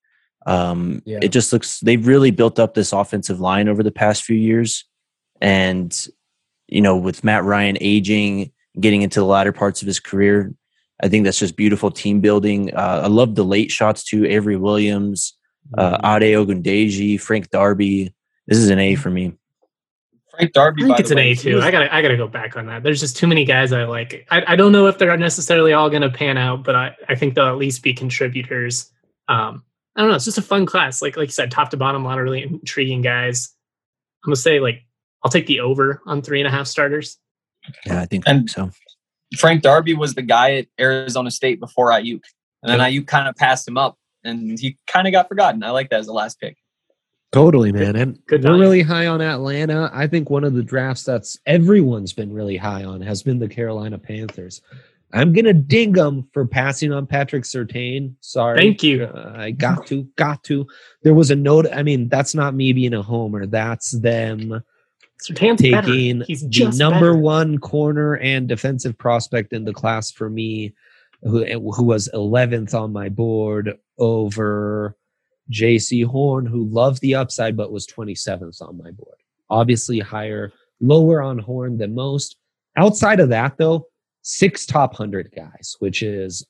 It just looks, they've really built up this offensive line over the past few years. And, you know, with Matt Ryan aging, getting into the latter parts of his career, I think that's just beautiful team building. I love the late shots too. Avery Williams, Ade Ogundeji, Frank Darby. This is an A for me. Frank Darby, I think it's an A too. I gotta go back on that. There's just too many guys I like. I don't know if they're necessarily all going to pan out, but I think they'll at least be contributors. I don't know. It's just a fun class. Like you said, top to bottom, a lot of really intriguing guys. I'm gonna say, like, I'll take the over on 3.5 starters. Yeah, I think so. Frank Darby was the guy at Arizona State before Ayuk, and then Ayuk kind of passed him up, and he kind of got forgotten. I like that as the last pick. Totally, man. And Good we're value. really high on Atlanta. I think one of the drafts that's everyone's been really high on has been the Carolina Panthers. I'm going to ding them for passing on Patrick Surtain. Sorry. Thank you. I got to. There was a note. I mean, that's not me being a homer. That's them Surtain's taking better. He's the just number better. 1 corner and defensive prospect in the class for me, who was 11th on my board over J.C. Horn, who loved the upside but was 27th on my board. Obviously lower on Horn than most. Outside of that, though, 6 top 100 guys, which is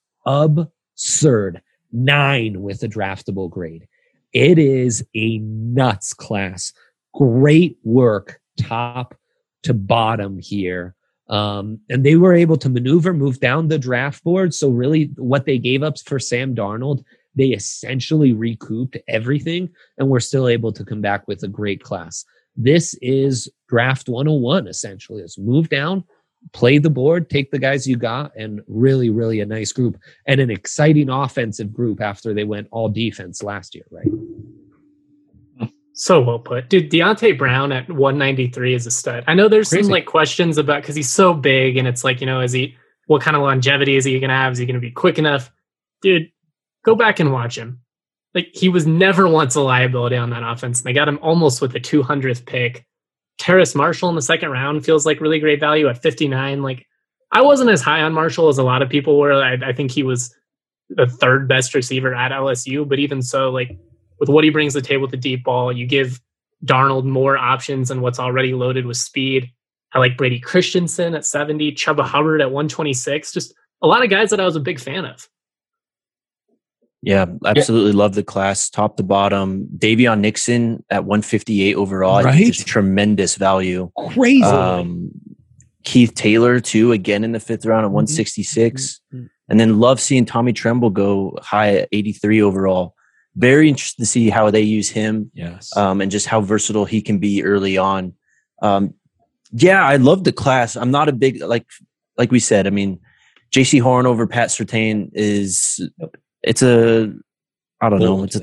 absurd. 9 with a draftable grade. It is a nuts class. Great work, top to bottom here. And they were able to move down the draft board. So really what they gave up for Sam Darnold, they essentially recouped everything, and we're still able to come back with a great class. This is draft 101, essentially. It's move down, play the board, take the guys you got, and really, really a nice group and an exciting offensive group after they went all defense last year, right? So well put. Dude, Deontay Brown at 193 is a stud. I know there's Crazy. some like questions about, because he's so big, and it's like, you know, what kind of longevity is he going to have? Is he going to be quick enough? Dude, go back and watch him. Like, he was never once a liability on that offense. And they got him almost with the 200th pick. Terrace Marshall in the second round feels like really great value at 59. Like, I wasn't as high on Marshall as a lot of people were. I think he was the 3rd best receiver at LSU. But even so, like, with what he brings to the table with the deep ball, you give Darnold more options than what's already loaded with speed. I like Brady Christensen at 70, Chuba Hubbard at 126. Just a lot of guys that I was a big fan of. Yeah, absolutely love the class, top to bottom. Davion Nixon at 158 overall. I think just tremendous value. Crazy. Keith Taylor, too, again in the 5th round at 166. And then love seeing Tommy Tremble go high at 83 overall. Very interested to see how they use him. Yes. And just how versatile he can be early on. Yeah, I love the class. I'm not a big, like we said, I mean, J.C. Horn over Pat Surtain it's a Bold.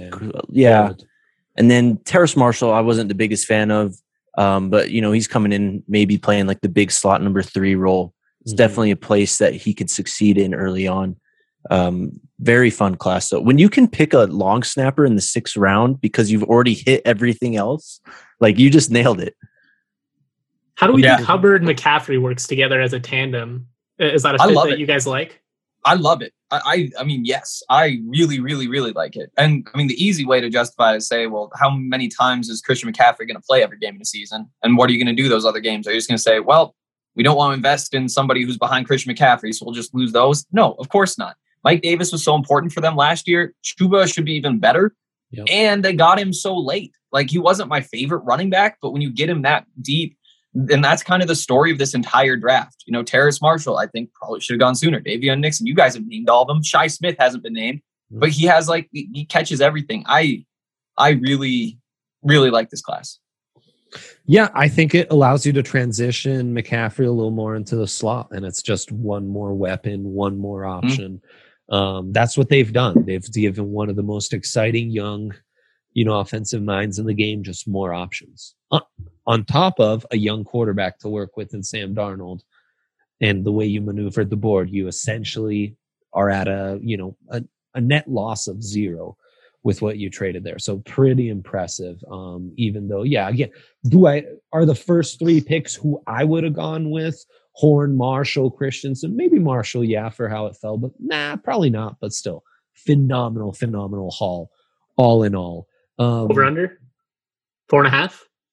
And then Terrace Marshall, I wasn't the biggest fan of, but you know, he's coming in maybe playing like the big slot number 3 role. It's definitely a place that he could succeed in early on. Very fun class. So when you can pick a long snapper in the 6th round because you've already hit everything else, like, you just nailed it. How do we think Hubbard McCaffrey works together as a tandem? Is that a fit that you guys like? I love it. I mean, yes, I really, really, really like it. And I mean, the easy way to justify it is say, well, how many times is Christian McCaffrey going to play every game in the season? And what are you going to do those other games? Are you just going to say, well, we don't want to invest in somebody who's behind Christian McCaffrey, so we'll just lose those. No, of course not. Mike Davis was so important for them last year. Chuba should be even better. Yep. And they got him so late. Like, he wasn't my favorite running back, but when you get him that deep, and that's kind of the story of this entire draft. You know, Terrace Marshall, I think, probably should have gone sooner. Davion Nixon, you guys have named all of them. Shi Smith hasn't been named, but he has, like, he catches everything. I really, really like this class. Yeah, I think it allows you to transition McCaffrey a little more into the slot, and it's just one more weapon, one more option. That's what they've done. They've given one of the most exciting young, offensive minds in the game just more options. On top of a young quarterback to work with in Sam Darnold, and the way you maneuvered the board, you essentially are at a net loss of 0 with what you traded there. So pretty impressive. Even though, again, are the first 3 picks who I would have gone with? Horn, Marshall, Christensen, maybe Marshall, for how it fell, but probably not. But still, phenomenal haul, all in all. Over under 4.5,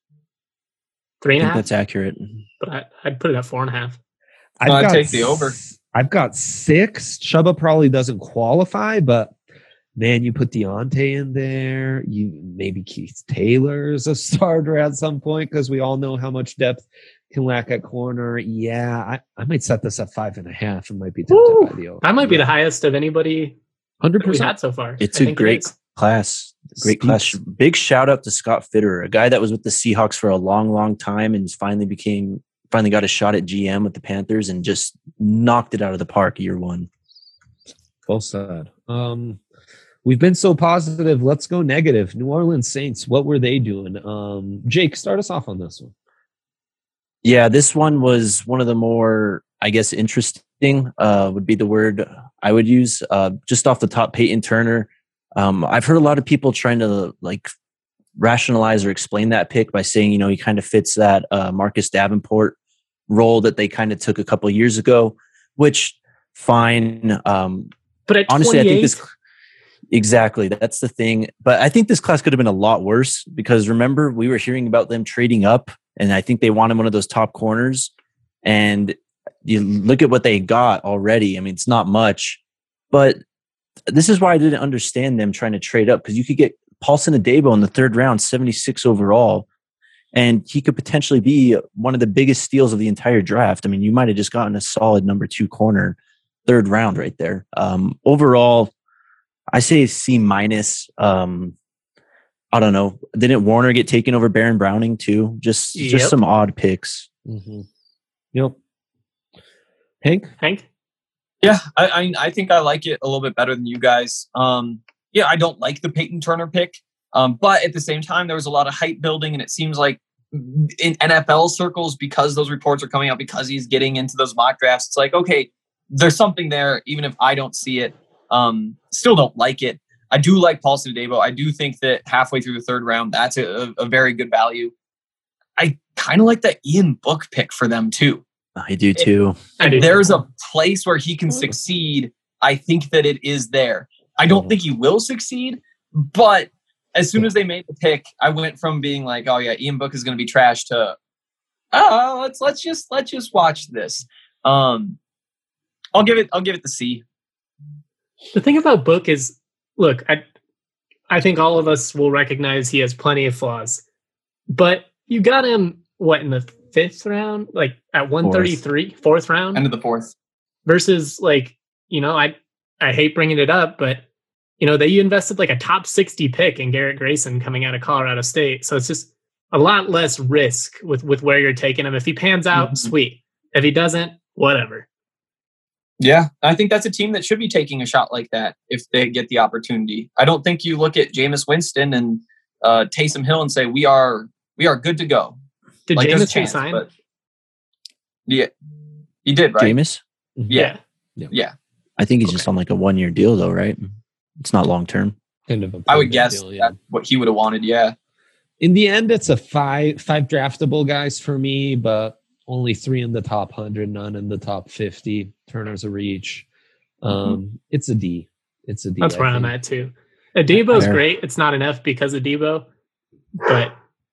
3.5. That's accurate. But I'd put it at 4.5. I'd take the over. I've got 6. Chuba probably doesn't qualify, but man, you put Deontay in there. You maybe Keith Taylor's a starter at some point, because we all know how much depth can lack at corner. Yeah, I might set this at 5.5 and might be tempted by the over. That might be the highest of anybody 100% we've had so far. It's a great class. Great class. Big shout out to Scott Fitterer, a guy that was with the Seahawks for a long, long time and finally got a shot at GM with the Panthers and just knocked it out of the park year 1. Well said. We've been so positive. Let's go negative. New Orleans Saints, what were they doing? Jake, start us off on this one. Yeah, this one was one of the more, I guess, interesting would be the word I would use. Just off the top, Peyton Turner. I've heard a lot of people trying to rationalize or explain that pick by saying, he kind of fits that Marcus Davenport role that they kind of took a couple of years ago, which fine. But at honestly, 28? I think this exactly, that's the thing. But I think this class could have been a lot worse, because remember, we were hearing about them trading up, and I think they wanted one of those top corners. And you look at what they got already. I mean, it's not much, but this is why I didn't understand them trying to trade up, because you could get Paulson Adebo in the 3rd round, 76 overall, and he could potentially be one of the biggest steals of the entire draft. I mean, you might have just gotten a solid number 2 corner, 3rd round right there. Overall, I say C-. I don't know. Didn't Warner get taken over Baron Browning too? Just some odd picks. Mm-hmm. Yep. Hank? Yeah, I think I like it a little bit better than you guys. I don't like the Peyton Turner pick, but at the same time, there was a lot of hype building, and it seems like in NFL circles, because those reports are coming out, because he's getting into those mock drafts, it's like, okay, there's something there, even if I don't see it. Still don't like it. I do like Paulson Adebo. I do think that halfway through the 3rd round, that's a very good value. I kind of like that Ian Book pick for them too. I do too. If there's a place where he can succeed, I think that it is there. I don't think he will succeed, but as soon as they made the pick, I went from being like, oh yeah, Ian Book is going to be trash to, let's just watch this. I'll give it the C. The thing about Book is, look, I think all of us will recognize he has plenty of flaws, but you got him in the 5th round, like at 133, 4th round, end of the 4th, versus I hate bringing it up, but they invested like a top 60 pick in Garrett Grayson coming out of Colorado State, so it's just a lot less risk with where you're taking him. If he pans out, sweet. If he doesn't, whatever. Yeah, I think that's a team that should be taking a shot like that if they get the opportunity. I don't think you look at Jameis Winston and Taysom Hill and say we are good to go. Did Jameis resign? But yeah, he did, right? Jameis? Yeah. I think he's just on like a 1-year deal, though, right? It's not long term. I would guess that's what he would have wanted. Yeah. In the end, it's a five draftable guys for me, but only 3 in the top 100, none in the top 50. Turner's a reach. It's a D. It's a D. That's where I'm at too. Adebo's great. It's not enough because of Debo, but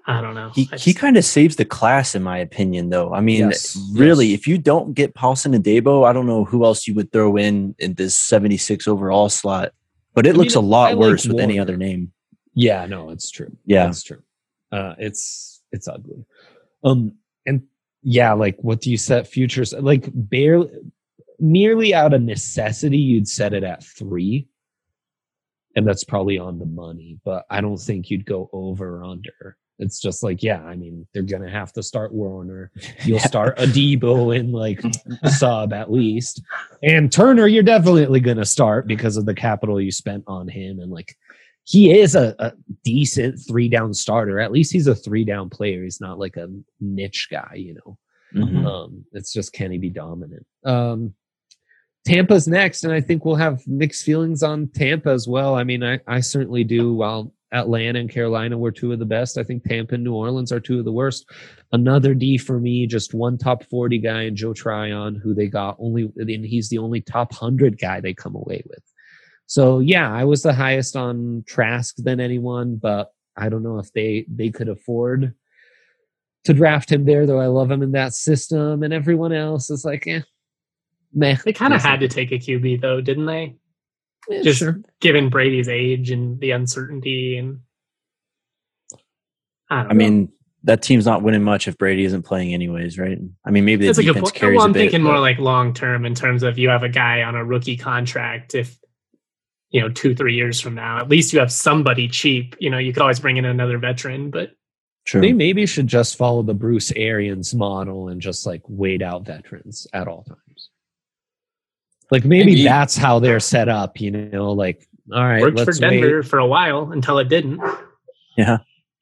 I don't know. He kind of saves the class, in my opinion, though. I mean, really, if you don't get Paulson and Debo, I don't know who else you would throw in this 76 overall slot. But it looks a lot worse with any other name. Yeah, no, it's true. Yeah, it's true. It's ugly. And yeah, like what do you set futures? Like barely, nearly out of necessity, you'd set it at 3. And that's probably on the money, but I don't think you'd go over or under. It's just like, yeah, I mean, they're going to have to start Warner. You'll start a Debo and like sub at least. And Turner, you're definitely going to start because of the capital you spent on him. And like, he is a decent 3-down starter. At least he's a 3-down player. He's not like a niche guy, you know. Mm-hmm. It's just, can he be dominant? Tampa's next, and I think we'll have mixed feelings on Tampa as well. I mean, I certainly do. While Atlanta and Carolina were 2 of the best, I think Tampa and New Orleans are 2 of the worst. Another D for me, just one top 40 guy in Joe Tryon, who they got and he's the only top 100 guy they come away with. So yeah, I was the highest on Trask than anyone, but I don't know if they could afford to draft him there, though I love him in that system, and everyone else is like, meh. They kind of had to take a QB, though, didn't they? Yeah, just sure. Given Brady's age and the uncertainty, and I mean, that team's not winning much if Brady isn't playing anyways, right? I mean, maybe the defense carries I'm a bit. thinking more like long term in terms of you have a guy on a rookie contract. If 2-3 years from now, at least you have somebody cheap. You could always bring in another veteran, but True. They maybe should just follow the Bruce Arians model and just like wait out veterans at all times. Like maybe that's how they're set up, like, all right. Worked for Denver for a while until it didn't. Yeah.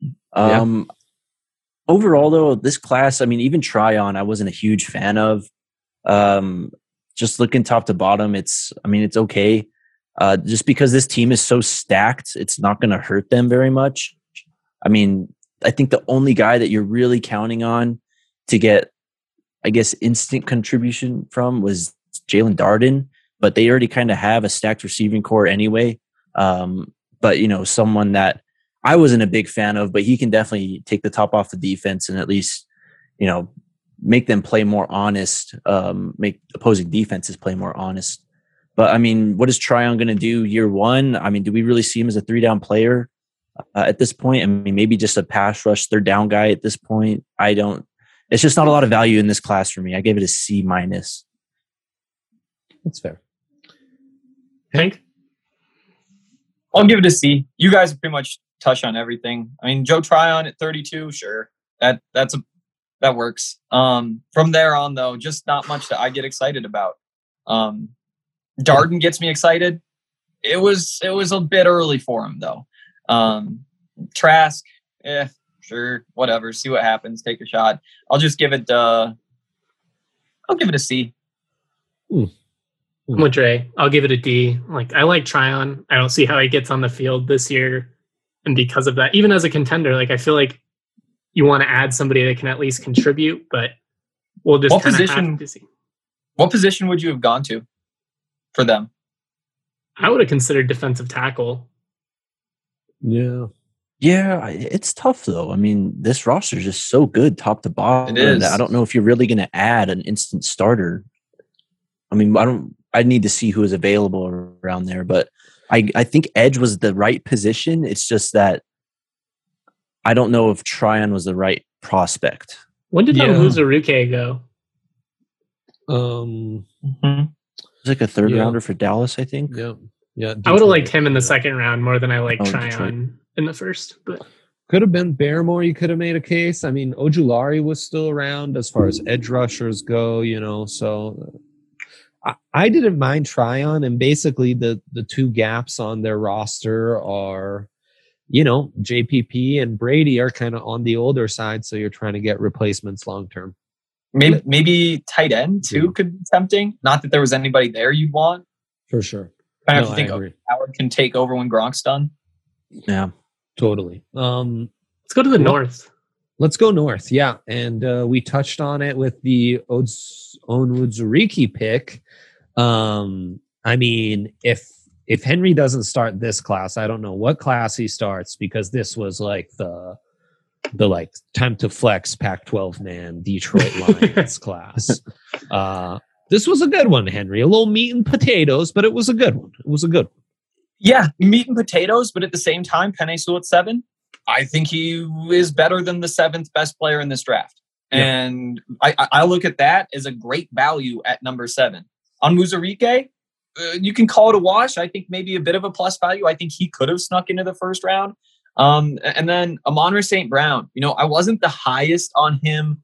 Overall though, this class, I mean, even Tryon, I wasn't a huge fan of. Just looking top to bottom, it's okay. Just because this team is so stacked, it's not going to hurt them very much. I mean, I think the only guy that you're really counting on to get, I guess, instant contribution from was Jalen Darden, but they already kind of have a stacked receiving core anyway. But, someone that I wasn't a big fan of, but he can definitely take the top off the defense and at least, make them play more honest, make opposing defenses play more honest. But, I mean, what is Tryon going to do year one? I mean, do we really see him as a 3-down player at this point? I mean, maybe just a pass rush 3rd down guy at this point. It's just not a lot of value in this class for me. I gave it a C-. That's fair. Hank? I'll give it a C. You guys pretty much touched on everything. I mean, Joe Tryon at 32, sure. That works. From there on, though, just not much that I get excited about. Darden gets me excited. It was a bit early for him, though. Trask, sure, whatever. See what happens. Take a shot. I'll just give it. I'll give it a C. I'm with Dre. I'll give it a D. Like, I like Tryon. I don't see how he gets on the field this year, and because of that, even as a contender, like I feel like you want to add somebody that can at least contribute. But we'll just kind of have to see. What position would you have gone to for them? I would have considered defensive tackle. Yeah, it's tough though. I mean, this roster is just so good top to bottom. It is. I don't know if you're really going to add an instant starter. I mean, I need to see who is available around there, but I think edge was the right position. It's just that I don't know if Tryon was the right prospect. When did Uzuruke go? It's like a 3rd rounder for Dallas, I think. Yeah. I would have liked him in the 2nd round more than I liked Tryon in the 1st. But could have been Barrymore. You could have made a case. I mean, Ojulari was still around as far as edge rushers go. So I didn't mind Tryon, and basically the 2 gaps on their roster are, JPP and Brady are kind of on the older side, so you're trying to get replacements long term. Maybe tight end too could be tempting. Not that there was anybody there you'd want. For sure. I have to think Howard can take over when Gronk's done. Yeah, totally. Let's go to the north. Let's go north, yeah. And we touched on it with the Onwuzurike pick. I mean, if Henry doesn't start this class, I don't know what class he starts, because this was like the the like time to flex Pac-12 man Detroit Lions class. This was a good one, Henry. A little meat and potatoes, but it was a good one. It was a good one. Yeah, meat and potatoes, but at the same time, Penei Sewell at 7, I think he is better than the 7th best player in this draft. Yeah. And I look at that as a great value at number 7. On Muzurike, you can call it a wash. I think maybe a bit of a plus value. I think he could have snuck into the first round. And then Amon-Ra St. Brown, I wasn't the highest on him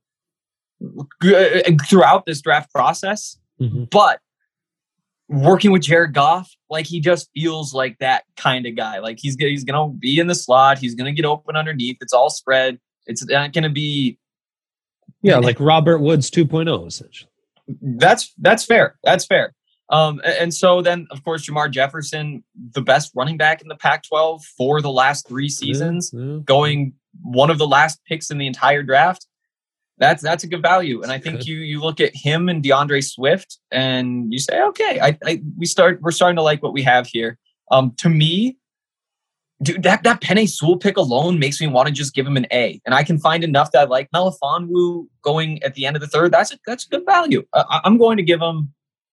throughout this draft process, but working with Jared Goff, like he just feels like that kind of guy. Like he's going to be in the slot. He's going to get open underneath. It's all spread. It's not going to be. Yeah. Like Robert Woods 2.0, essentially. That's fair. That's fair. And so then, of course, Jamar Jefferson, the best running back in the Pac-12 for the last 3 seasons, going one of the last picks in the entire draft. That's a good value. And I think you look at him and DeAndre Swift and you say, okay, we're starting to like what we have here. To me, dude, that Penei Sewell pick alone makes me want to just give him an A. And I can find enough that I like Melifonwu going at the end of the 3rd. That's a good value. I'm going to give him.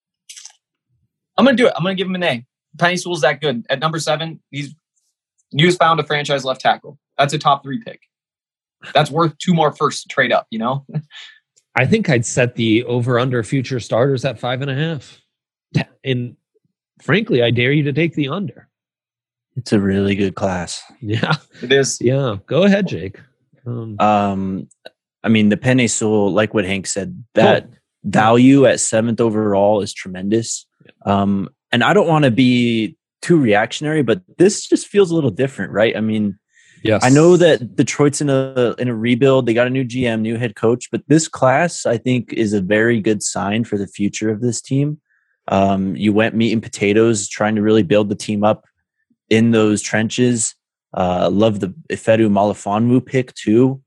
I'm going to do it. I'm going to give him an A. Penei Sewell's that good. At number 7, you just found a franchise left tackle. That's a top 3 pick. That's worth 2 more firsts to trade up, I think I'd set the over-under future starters at 5.5. And frankly, I dare you to take the under. It's a really good class. Yeah. It is. Yeah. Go ahead, Jake. I mean, the Penei Sewell, like what Hank said, that value at 7th overall is tremendous. And I don't want to be too reactionary, but this just feels a little different, right? I mean, yes. I know that Detroit's in a rebuild. They got a new GM, new head coach, but this class, I think, is a very good sign for the future of this team. You went meat and potatoes, trying to really build the team up in those trenches. Love the Ifedu Melifonwu pick too.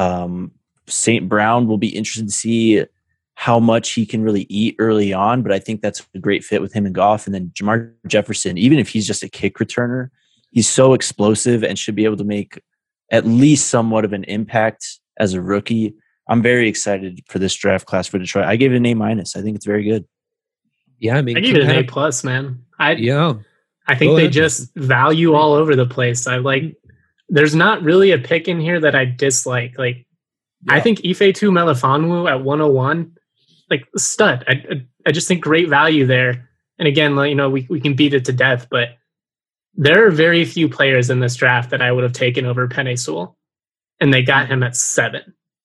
St. Brown will be interested to see how much he can really eat early on, but I think that's a great fit with him and Goff. And then Jamar Jefferson, even if he's just a kick returner, he's so explosive and should be able to make at least somewhat of an impact as a rookie. I'm very excited for this draft class for Detroit. I gave it an A-. I think it's very good. Yeah, I mean, I gave it an A+, man. I think they just value all over the place. There's not really a pick in here that I dislike. I think Ifeatu Melifonwu at 101, stud. I just think great value there. And again, we can beat it to death, but there are very few players in this draft that I would have taken over Penei Sewell, and they got him at 7.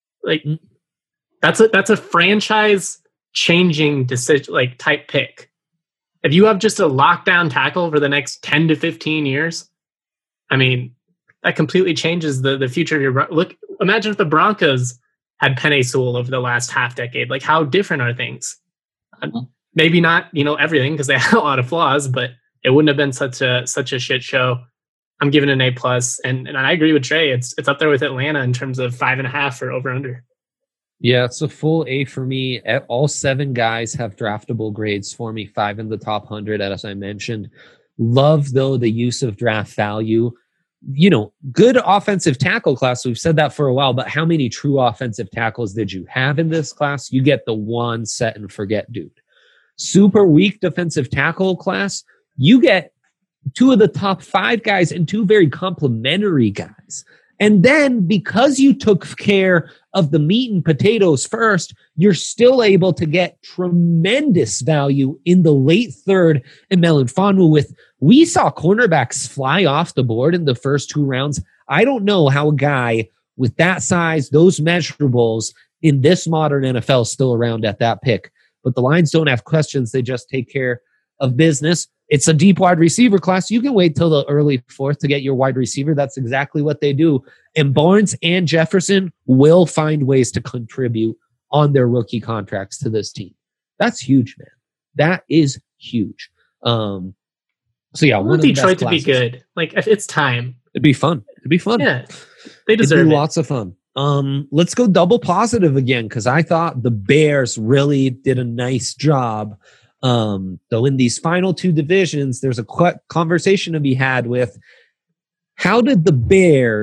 That's a franchise changing decision, type pick. If you have just a lockdown tackle for the next 10 to 15 years, I mean, that completely changes the future of your look. Imagine if the Broncos had Penei Sewell over the last half decade. How different are things? Maybe not, everything, because they had a lot of flaws, but it wouldn't have been such a shit show. I'm giving it an A+, and I agree with Trey. It's up there with Atlanta in terms of 5.5 for over under. Yeah, it's a full A for me. All 7 guys have draftable grades for me. 5 in the top 100, as I mentioned. Love, though, the use of draft value. Good offensive tackle class. We've said that for a while, but how many true offensive tackles did you have in this class? You get the one set and forget dude. Super weak defensive tackle class. You get 2 of the top 5 guys and 2 very complimentary guys. And then because you took care of the meat and potatoes first, you're still able to get tremendous value in the late 3rd in Melifonwu. We saw cornerbacks fly off the board in the first 2 rounds. I don't know how a guy with that size, those measurables in this modern NFL is still around at that pick. But the Lions don't have questions. They just take care of business. It's a deep wide receiver class. You can wait till the early 4th to get your wide receiver. That's exactly what they do. And Barnes and Jefferson will find ways to contribute on their rookie contracts to this team. That's huge, man. That is huge. So yeah, I want Detroit to be good. If it's time, it'd be fun. Yeah, they deserve it. Lots of fun. Let's go double positive again, because I thought the Bears really did a nice job. Though in these final 2 divisions, there's a conversation to be had with how did the Bears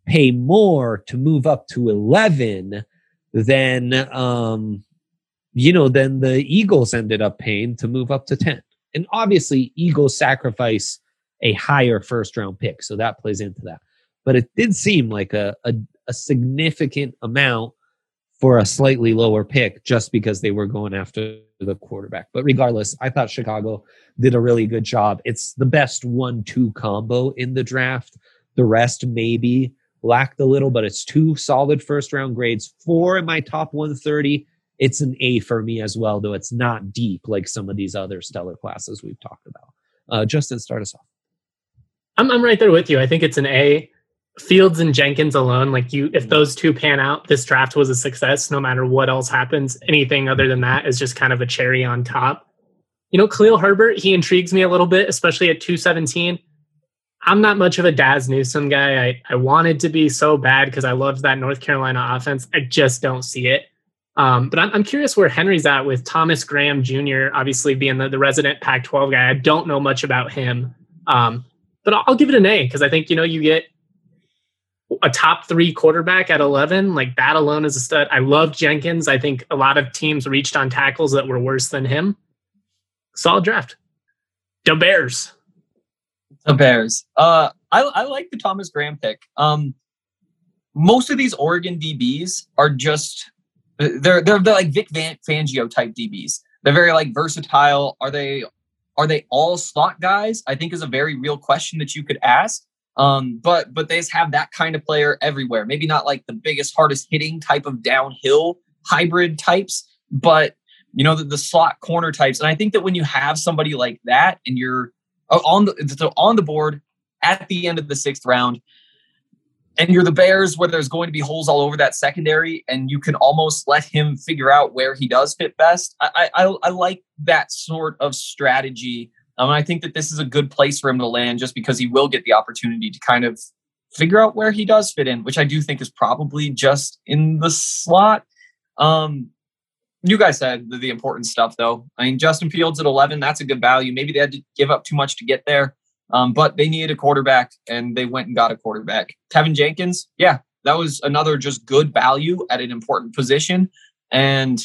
pay more to move up to 11 than than the Eagles ended up paying to move up to 10. And obviously, Eagles sacrifice a higher first round pick, so that plays into that. But it did seem like a significant amount for a slightly lower pick just because they were going after the quarterback. But regardless, I thought Chicago did a really good job. It's the best 1-2 combo in the draft. The rest maybe lacked a little, but it's 2 solid first round grades. 4 in my top 130. It's an A for me as well, though it's not deep like some of these other stellar classes we've talked about. Justin, start us off. I'm right there with you. I think it's an A. Fields and Jenkins alone, if those 2 pan out, this draft was a success no matter what else happens. Anything other than that is just kind of a cherry on top. Khalil Herbert, he intrigues me a little bit, especially at 217. I'm not much of a Daz Newsome guy. I wanted to be so bad because I loved that North Carolina offense. I just don't see it. But I'm curious where Henry's at with Thomas Graham Jr., obviously being the resident Pac-12 guy. I don't know much about him. But I'll give it an A because I think, you get a top 3 quarterback at 11, that alone is a stud. I love Jenkins. I think a lot of teams reached on tackles that were worse than him. Solid draft. The Bears. The Bears. I like the Thomas Graham pick. Most of these Oregon DBs are just they're like Vic Fangio type DBs. They're very versatile. Are they all slot guys? I think is a very real question that you could ask. But they just have that kind of player everywhere. Maybe not the biggest, hardest hitting type of downhill hybrid types, but the slot corner types. And I think that when you have somebody like that and you're on the board at the end of the 6th round, and you're the Bears where there's going to be holes all over that secondary, and you can almost let him figure out where he does fit best. I like that sort of strategy. I think that this is a good place for him to land just because he will get the opportunity to kind of figure out where he does fit in, which I do think is probably just in the slot. You guys said the important stuff, though. Justin Fields at 11, that's a good value. Maybe they had to give up too much to get there, but they needed a quarterback, and they went and got a quarterback. Tevin Jenkins, yeah, that was another just good value at an important position. And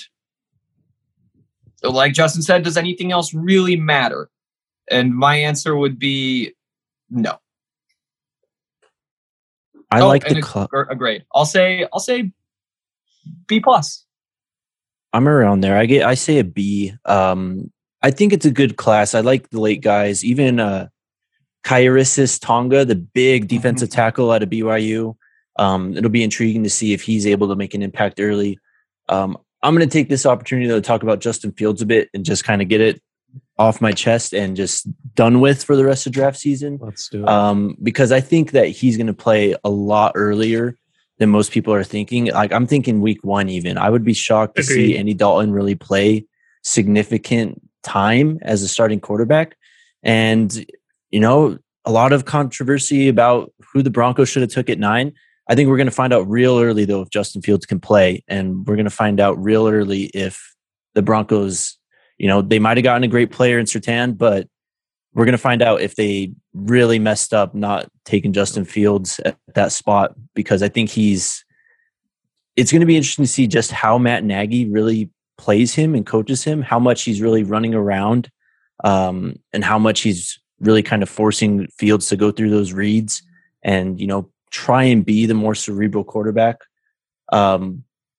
like Justin said, does anything else really matter? And my answer would be no. I like the a grade. I'll say B+. I'm around there. I say a B. I think it's a good class. I like the late guys. Even Kairis Tonga, the big defensive tackle out of BYU. It'll be intriguing to see if he's able to make an impact early. I'm going to take this opportunity to talk about Justin Fields a bit and just kind of get it off my chest and just done with for the rest of draft season. Let's do it. Because I think that he's going to play a lot earlier than most people are thinking. I'm thinking week 1 even. I would be shocked to see Andy Dalton really play significant time as a starting quarterback. And, a lot of controversy about who the Broncos should have took at 9. I think we're going to find out real early, though, if Justin Fields can play. And we're going to find out real early if the Broncos, they might have gotten a great player in Surtain, but we're going to find out if they really messed up not taking Justin Fields at that spot, because I think it's going to be interesting to see just how Matt Nagy really plays him and coaches him, how much he's really running around, and how much he's really kind of forcing Fields to go through those reads and, try and be the more cerebral quarterback. But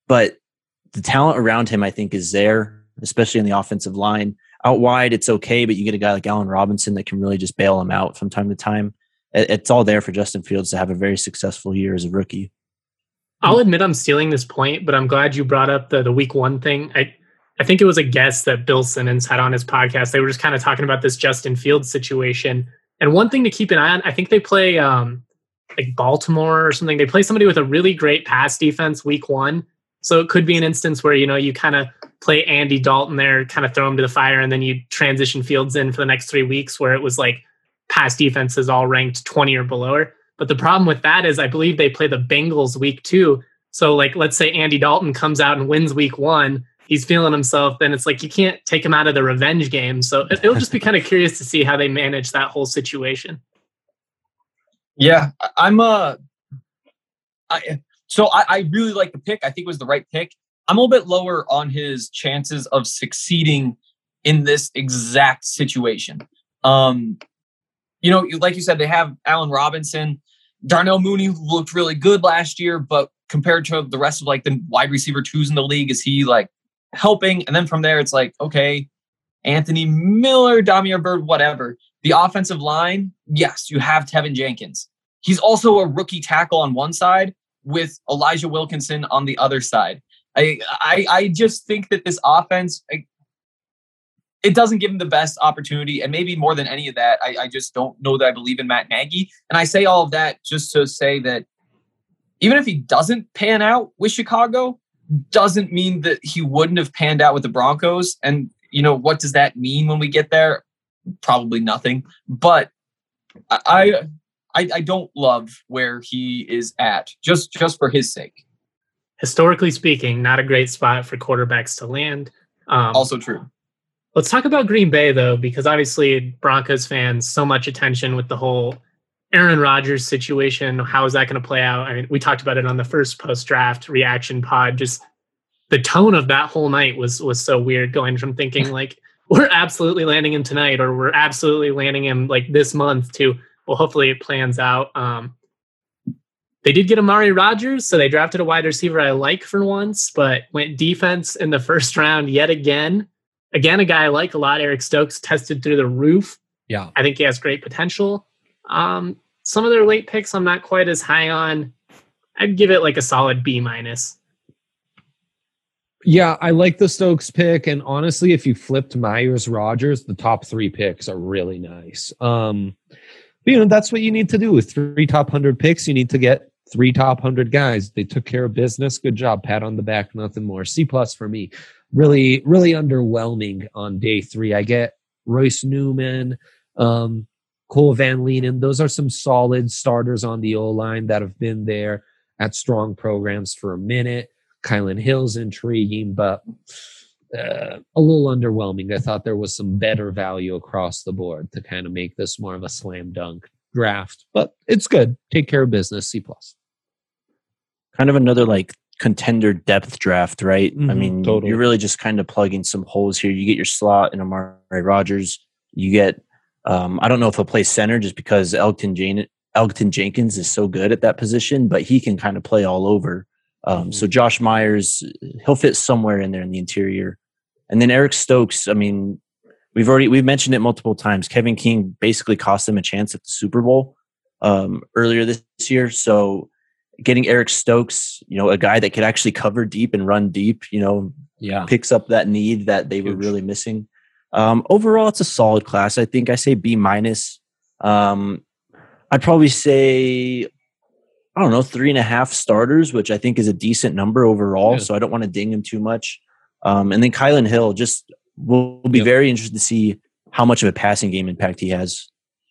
the talent around him, I think, is there, especially in the offensive line. Out wide, it's okay, but you get a guy like Allen Robinson that can really just bail him out from time to time. It's all there for Justin Fields to have a very successful year as a rookie. I'll admit I'm stealing this point, but I'm glad you brought up the week 1 thing. I think it was a guest that Bill Simmons had on his podcast. They were just kind of talking about this Justin Fields situation. And one thing to keep an eye on, I think they play Baltimore or something. They play somebody with a really great pass defense week 1. So it could be an instance where, you kind of play Andy Dalton there, kind of throw him to the fire, and then you transition Fields in for the next 3 weeks where it was pass defenses all ranked 20 or below. But the problem with that is I believe they play the Bengals week 2. So let's say Andy Dalton comes out and wins week 1. He's feeling himself. Then it's you can't take him out of the revenge game. So it'll just be kind of curious to see how they manage that whole situation. Yeah, I'm I really like the pick. I think it was the right pick. I'm a little bit lower on his chances of succeeding in this exact situation. Like you said, they have Allen Robinson. Darnell Mooney looked really good last year, but compared to the rest of like the wide receiver twos in the league, is he like helping? And then from there, it's like, okay, Anthony Miller, Damiere Byrd, whatever. The offensive line, yes, you have Tevin Jenkins. He's also a rookie tackle on one side with Elijah Wilkinson on the other side. I just think that this offense, it doesn't give him the best opportunity. And maybe more than any of that, I just don't know that I believe in Matt Nagy. And I say all of that just to say that even if he doesn't pan out with Chicago, doesn't mean that he wouldn't have panned out with the Broncos. And, what does that mean when we get there? Probably nothing. But I don't love where he is at, just for his sake. Historically speaking, not a great spot for quarterbacks to land. Also true. Let's talk about Green Bay, though, because obviously Broncos fans, so much attention with the whole Aaron Rodgers situation. How is that going to play out? I mean, we talked about it on the first post-draft reaction pod. Just the tone of that whole night was so weird, going from thinking like, we're absolutely landing him tonight, or we're absolutely landing him like this month, to, well, hopefully it plans out. They did get Amari Rodgers, so they drafted a wide receiver I like for once, but went defense in the first round yet again. Again, a guy I like a lot, Eric Stokes, tested through the roof. Yeah. I think he has great potential. Some of their late picks I'm not quite as high on. I'd give it like a solid B-. Yeah, I like the Stokes pick. And honestly, if you flipped Myers Rodgers, the top 3 picks are really nice. That's what you need to do with 3 top 100 picks. You need to get 3 top 100 guys. They took care of business. Good job. Pat on the back. Nothing more. C+ for me. Really, really underwhelming on day 3. I get Royce Newman, Cole Van Leenen. Those are some solid starters on the O-line that have been there at strong programs for a minute. Kylan Hill's intriguing, but a little underwhelming. I thought there was some better value across the board to kind of make this more of a slam dunk draft, but it's good. Take care of business. C+. Kind of another like contender depth draft, right? Mm-hmm, I mean, totally. You're really just kind of plugging some holes here. You get your slot in Amari Rodgers. You get, I don't know if he'll play center just because Elgton Jenkins is so good at that position, but he can kind of play all over. So Josh Myers, he'll fit somewhere in there in the interior. And then Eric Stokes, I mean, we've mentioned it multiple times. Kevin King basically cost them a chance at the Super Bowl earlier this year. So getting Eric Stokes, a guy that could actually cover deep and run deep, picks up that need that they were really missing. Overall, it's a solid class. I think I say B-. I'd probably say, 3.5 starters, which I think is a decent number overall. Yeah. So I don't want to ding him too much. And then Kylan Hill, just will be very interested to see how much of a passing game impact he has.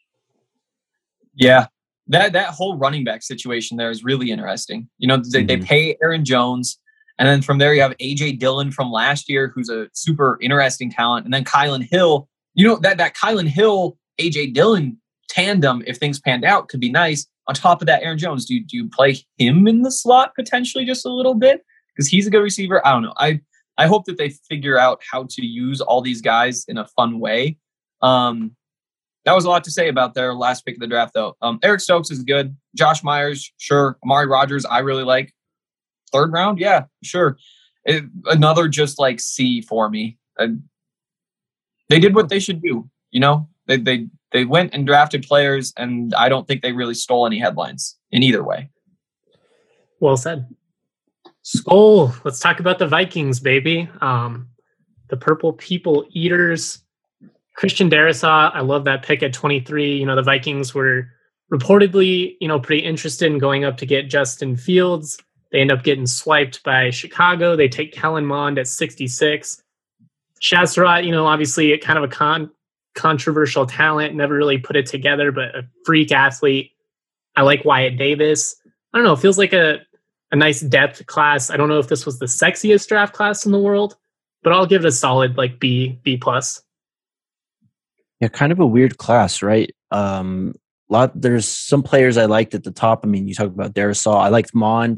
Yeah, that whole running back situation there is really interesting. They pay Aaron Jones, and then from there you have A.J. Dillon from last year, who's a super interesting talent, and then Kylan Hill. That Kylan Hill, A.J. Dillon tandem, if things panned out, could be nice. On top of that, Aaron Jones, do you play him in the slot potentially just a little bit? Because he's a good receiver. I don't know. I hope that they figure out how to use all these guys in a fun way. That was a lot to say about their last pick of the draft, though. Eric Stokes is good. Josh Myers, sure. Amari Rodgers, I really like. 3rd round, yeah, sure. Another just like C for me. They did what they should do. They went and drafted players, and I don't think they really stole any headlines in either way. Well said. Skol. Let's talk about the Vikings, baby. The Purple People Eaters. Christian Darrisaw, I love that pick at 23. The Vikings were reportedly, pretty interested in going up to get Justin Fields. They end up getting swiped by Chicago. They take Kellen Mond at 66. Shaz Surratt, obviously kind of a controversial talent, never really put it together, but a freak athlete. I like Wyatt Davis. I don't know, it feels like a nice depth class. I don't know if this was the sexiest draft class in the world, but I'll give it a solid like B+. Yeah, kind of a weird class, right? There's some players I liked at the top. I mean, you talk about Darisaw. I liked Mond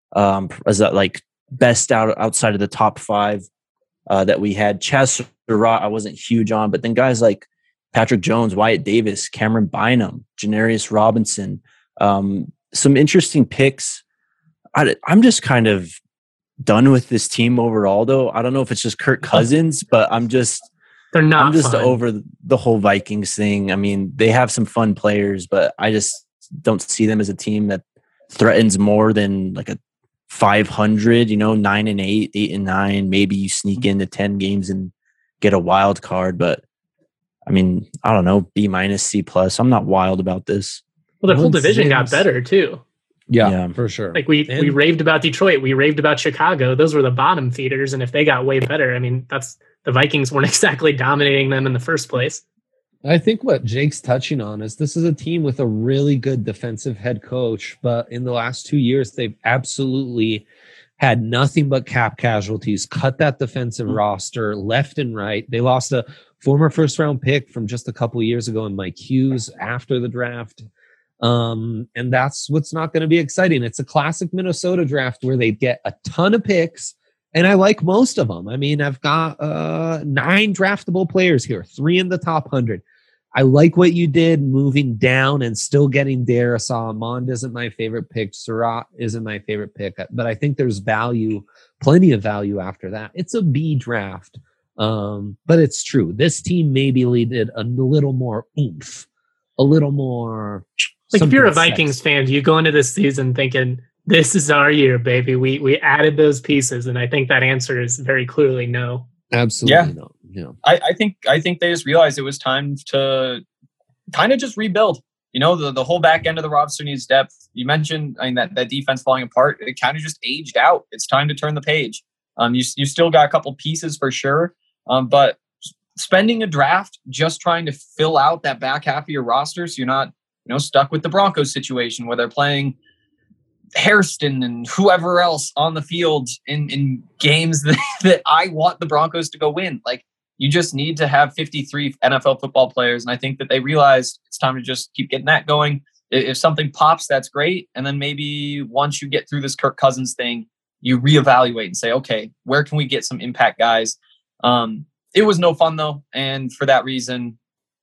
as that like best outside of the top 5 that we had. Chaz Surratt, I wasn't huge on, but then guys like Patrick Jones, Wyatt Davis, Cameron Bynum, Janarius Robinson, some interesting picks. I'm just kind of done with this team overall, though. I don't know if it's just Kirk Cousins, but I'm just fun. over the whole Vikings thing. I mean, they have some fun players, but I just don't see them as a team that threatens more than like a 500, 9-8, 8-9. Maybe you sneak into 10 games and get a wild card, but I mean, I don't know, B-, C+. I'm not wild about this. Well, the whole division got better too. Yeah, for sure. Like we raved about Detroit, we raved about Chicago. Those were the bottom feeders, and if they got way better, I mean, the Vikings weren't exactly dominating them in the first place. I think what Jake's touching on is this is a team with a really good defensive head coach, but in the last 2 years, they've absolutely had nothing but cap casualties, cut that defensive roster left and right. They lost a former first-round pick from just a couple of years ago in Mike Hughes after the draft. And that's what's not going to be exciting. It's a classic Minnesota draft where they get a ton of picks, and I like most of them. I mean, I've got 9 draftable players here, 3 in the top 100. I like what you did moving down and still getting Darisaw. Mond isn't my favorite pick. Surratt isn't my favorite pick, but I think there's plenty of value after that. It's a B draft, but it's true. This team maybe needed a little more oomph, a little more. Like if you're a Vikings fan, you go into this season thinking, this is our year, baby. We added those pieces, and I think that answer is very clearly no. Absolutely no. Yeah. I think they just realized it was time to kind of just rebuild. The whole back end of the roster needs depth. You mentioned, that defense falling apart. It kind of just aged out. It's time to turn the page. You still got a couple pieces for sure, but spending a draft just trying to fill out that back half of your roster, so you're not stuck with the Broncos situation where they're playing Hairston and whoever else on the field in games that I want the Broncos to go win. Like, you just need to have 53 NFL football players. And I think that they realized it's time to just keep getting that going. If something pops, that's great. And then maybe once you get through this Kirk Cousins thing, you reevaluate and say, okay, where can we get some impact guys? It was no fun though. And for that reason,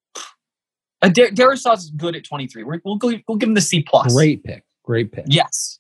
Darisaw is good at 23. We'll give him the C+. Great pick. Yes.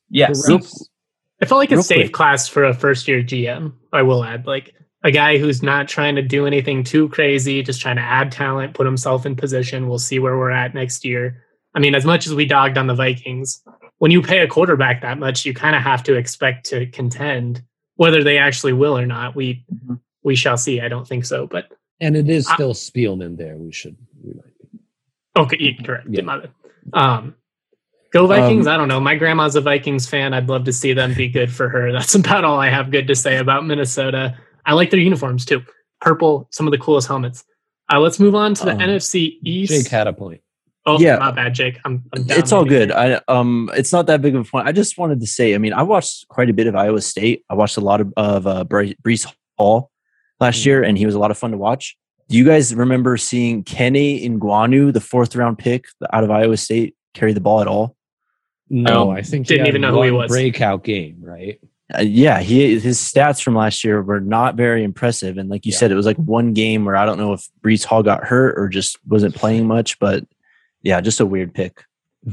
I felt like a safe class for a first-year GM, I will add. Like a guy who's not trying to do anything too crazy, just trying to add talent, put himself in position. We'll see where we're at next year. I mean, as much as we dogged on the Vikings, when you pay a quarterback that much, you kind of have to expect to contend. Whether they actually will or not, we shall see. I don't think so. And it is still Spielman there. We might be. Okay, correct. Yeah. Go Vikings. I don't know. My grandma's a Vikings fan. I'd love to see them be good for her. That's about all I have good to say about Minnesota. I like their uniforms too. Purple, some of the coolest helmets. Let's move on to the NFC East. Jake had a point. Oh, yeah. My bad, Jake. I'm down. It's all good. It's not that big of a point. I just wanted to say, I mean, I watched quite a bit of Iowa State. I watched a lot of Breece Hall last year, and he was a lot of fun to watch. Do you guys remember seeing Kenny Ngannou, the 4th round pick out of Iowa State, carry the ball at all? No, I think didn't even know who he was. Breakout game, right? His stats from last year were not very impressive, and like you said, it was like one game where I don't know if Breece Hall got hurt or just wasn't playing much, but yeah, just a weird pick.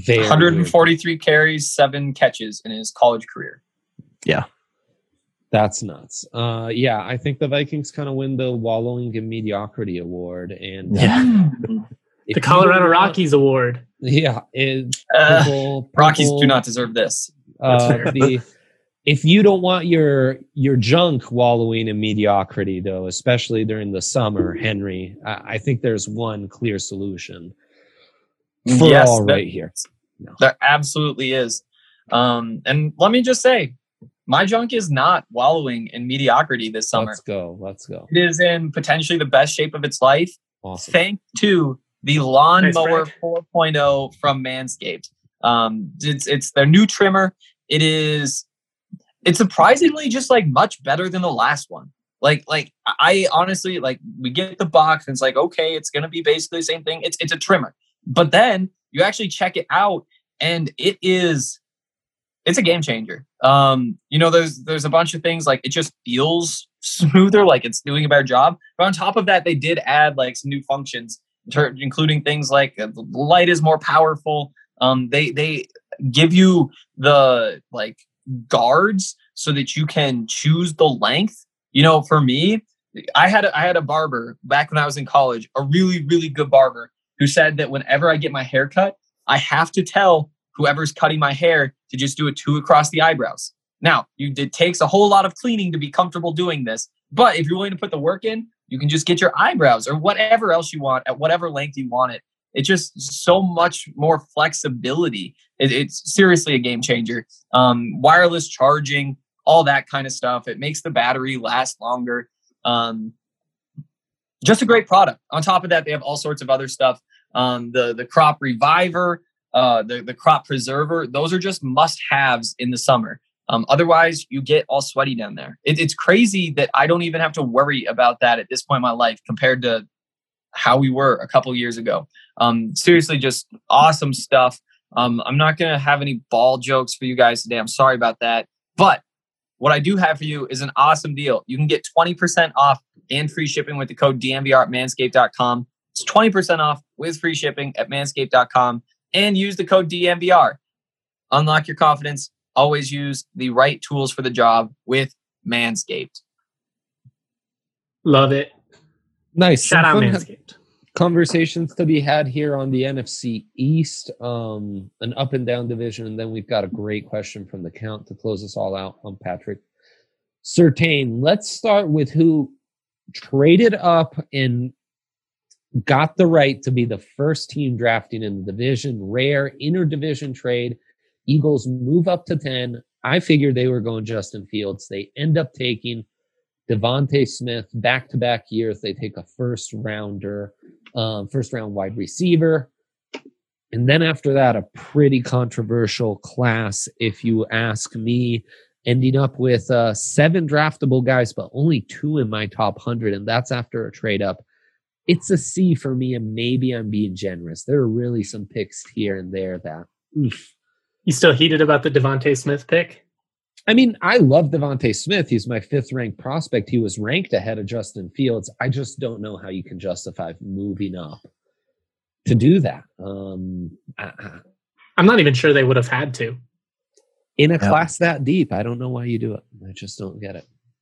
143 carries, 7 catches in his college career. Yeah, that's nuts. I think the Vikings kind of win the wallowing in mediocrity award, and the Colorado Rockies award. Yeah, Rockies do not deserve this. If you don't want your junk wallowing in mediocrity, though, especially during the summer, Henry, I think there's one clear solution for all right here. No. There absolutely is. And let me just say, my junk is not wallowing in mediocrity this summer. Let's go. It is in potentially the best shape of its life. Awesome. Thanks to the Lawnmower 4.0 from Manscaped. It's their new trimmer. It's surprisingly just like much better than the last one. Like I honestly, like, we get the box and it's like, okay, it's going to be basically the same thing. It's a trimmer, but then You actually check it out, and it's a game changer. There's a bunch of things like it just feels smoother, like it's doing a better job. But on top of that, they did add like some new functions, including things like the light is more powerful. They give you the like guards so that you can choose the length. For me, I had a barber back when I was in college, a really, really good barber who said that whenever I get my hair cut, I have to tell whoever's cutting my hair to just do a 2 across the eyebrows. Now, it takes a whole lot of cleaning to be comfortable doing this, but if you're willing to put the work in, you can just get your eyebrows or whatever else you want at whatever length you want it. It's just so much more flexibility. It's seriously a game changer. Wireless charging, all that kind of stuff. It makes the battery last longer. Just a great product. On top of that, they have all sorts of other stuff. The crop reviver, the crop preserver. Those are just must-haves in the summer. Otherwise, you get all sweaty down there. It's crazy that I don't even have to worry about that at this point in my life compared to how we were a couple years ago. Seriously, just awesome stuff. I'm not going to have any ball jokes for you guys today. I'm sorry about that. But what I do have for you is an awesome deal. You can get 20% off and free shipping with the code DNVR at manscaped.com. It's 20% off with free shipping at manscaped.com and use the code DNVR. Unlock your confidence. Always use the right tools for the job with Manscaped. Love it. Nice. Shout out Manscaped. Conversations to be had here on the NFC East, an up and down division, and then we've got a great question from the count to close us all out on Patrick Surtain. Let's start with who traded up and got the right to be the first team drafting in the division. Rare interdivision trade. Eagles move up to 10. I figured they were going Justin Fields. They end up taking Devontae Smith back-to-back years. They take a first-round wide receiver. And then after that, a pretty controversial class, if you ask me, ending up with 7 draftable guys, but only 2 in my top 100, and that's after a trade-up. It's a C for me, and maybe I'm being generous. There are really some picks here and there that... oof. You still heated about the Devontae Smith pick? I mean, I love Devontae Smith. He's my 5th ranked prospect. He was ranked ahead of Justin Fields. I just don't know how you can justify moving up to do that. I'm not even sure they would have had to. In a class that deep, I don't know why you do it. I just don't get it.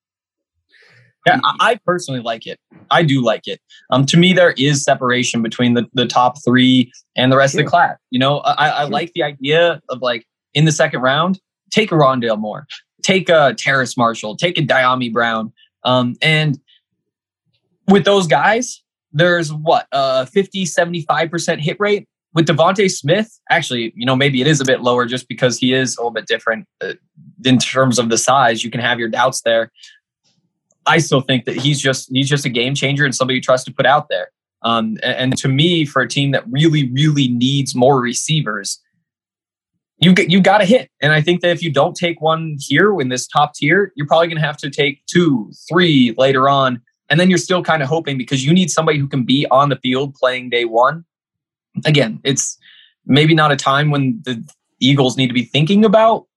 Yeah, I personally like it. I do like it. To me, there is separation between the top 3 and the rest of the class. I like the idea of like in the second round, take a Rondale Moore, take a Terrace Marshall, take a Diami Brown. And with those guys, there's a 50, 75% hit rate. With Devontae Smith, actually, maybe it is a bit lower just because he is a little bit different in terms of the size. You can have your doubts there. I still think that he's just a game changer and somebody you trust to put out there. And to me, for a team that really, really needs more receivers, you got to hit. And I think that if you don't take one here in this top tier, you're probably going to have to take 2, 3 later on. And then you're still kind of hoping because you need somebody who can be on the field playing day one. Again, it's maybe not a time when the Eagles need to be thinking about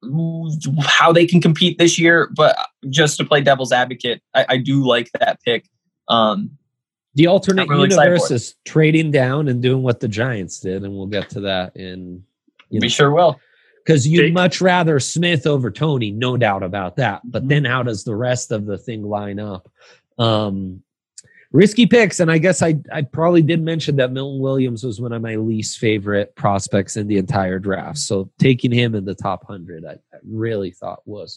how they can compete this year, but just to play devil's advocate, I do like that pick. The alternate universe is trading down and doing what the Giants did, and we'll get to that in. We sure will. Because you'd much rather Smith over Tony, no doubt about that. But then how does the rest of the thing line up? Risky picks, and I guess I probably did mention that Milton Williams was one of my least favorite prospects in the entire draft. So taking him in the top 100, I really thought was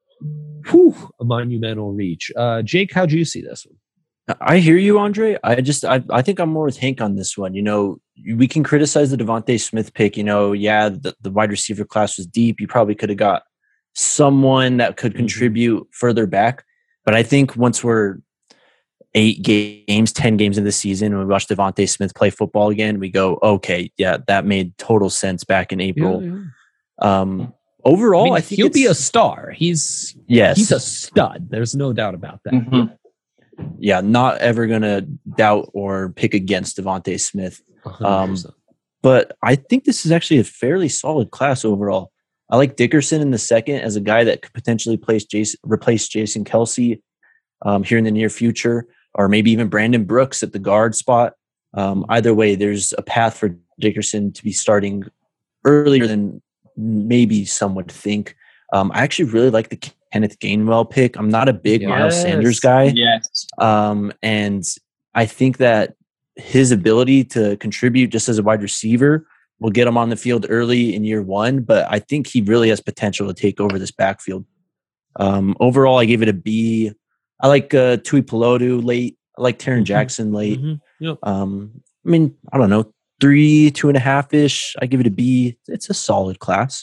a monumental reach. Jake, how'd you see this one? I hear you, Andre. I think I'm more with Hank on this one. We can criticize the Devontae Smith pick. The wide receiver class was deep. You probably could have got someone that could contribute further back. But I think once we're 10 games into the season, and we watch Devontae Smith play football again, we go, okay, yeah, that made total sense back in April. Yeah. Overall, I think he'll be a star. He's a stud. There's no doubt about that. Mm-hmm. Yeah, not ever gonna doubt or pick against Devontae Smith. but I think this is actually a fairly solid class overall. I like Dickerson in the second as a guy that could potentially replace Jason Kelce here in the near future, or maybe even Brandon Brooks at the guard spot. Either way, there's a path for Dickerson to be starting earlier than maybe some would think. I actually really like the Kenneth Gainwell pick. I'm not a big Miles Sanders guy. Yes. And I think that his ability to contribute just as a wide receiver will get him on the field early in year one, but I think he really has potential to take over this backfield. Overall, I gave it a B. I like Tui Pelotu late. I like Taron Jackson late. Yep. I mean, I don't know, 2.5-ish. I give it a B. It's a solid class.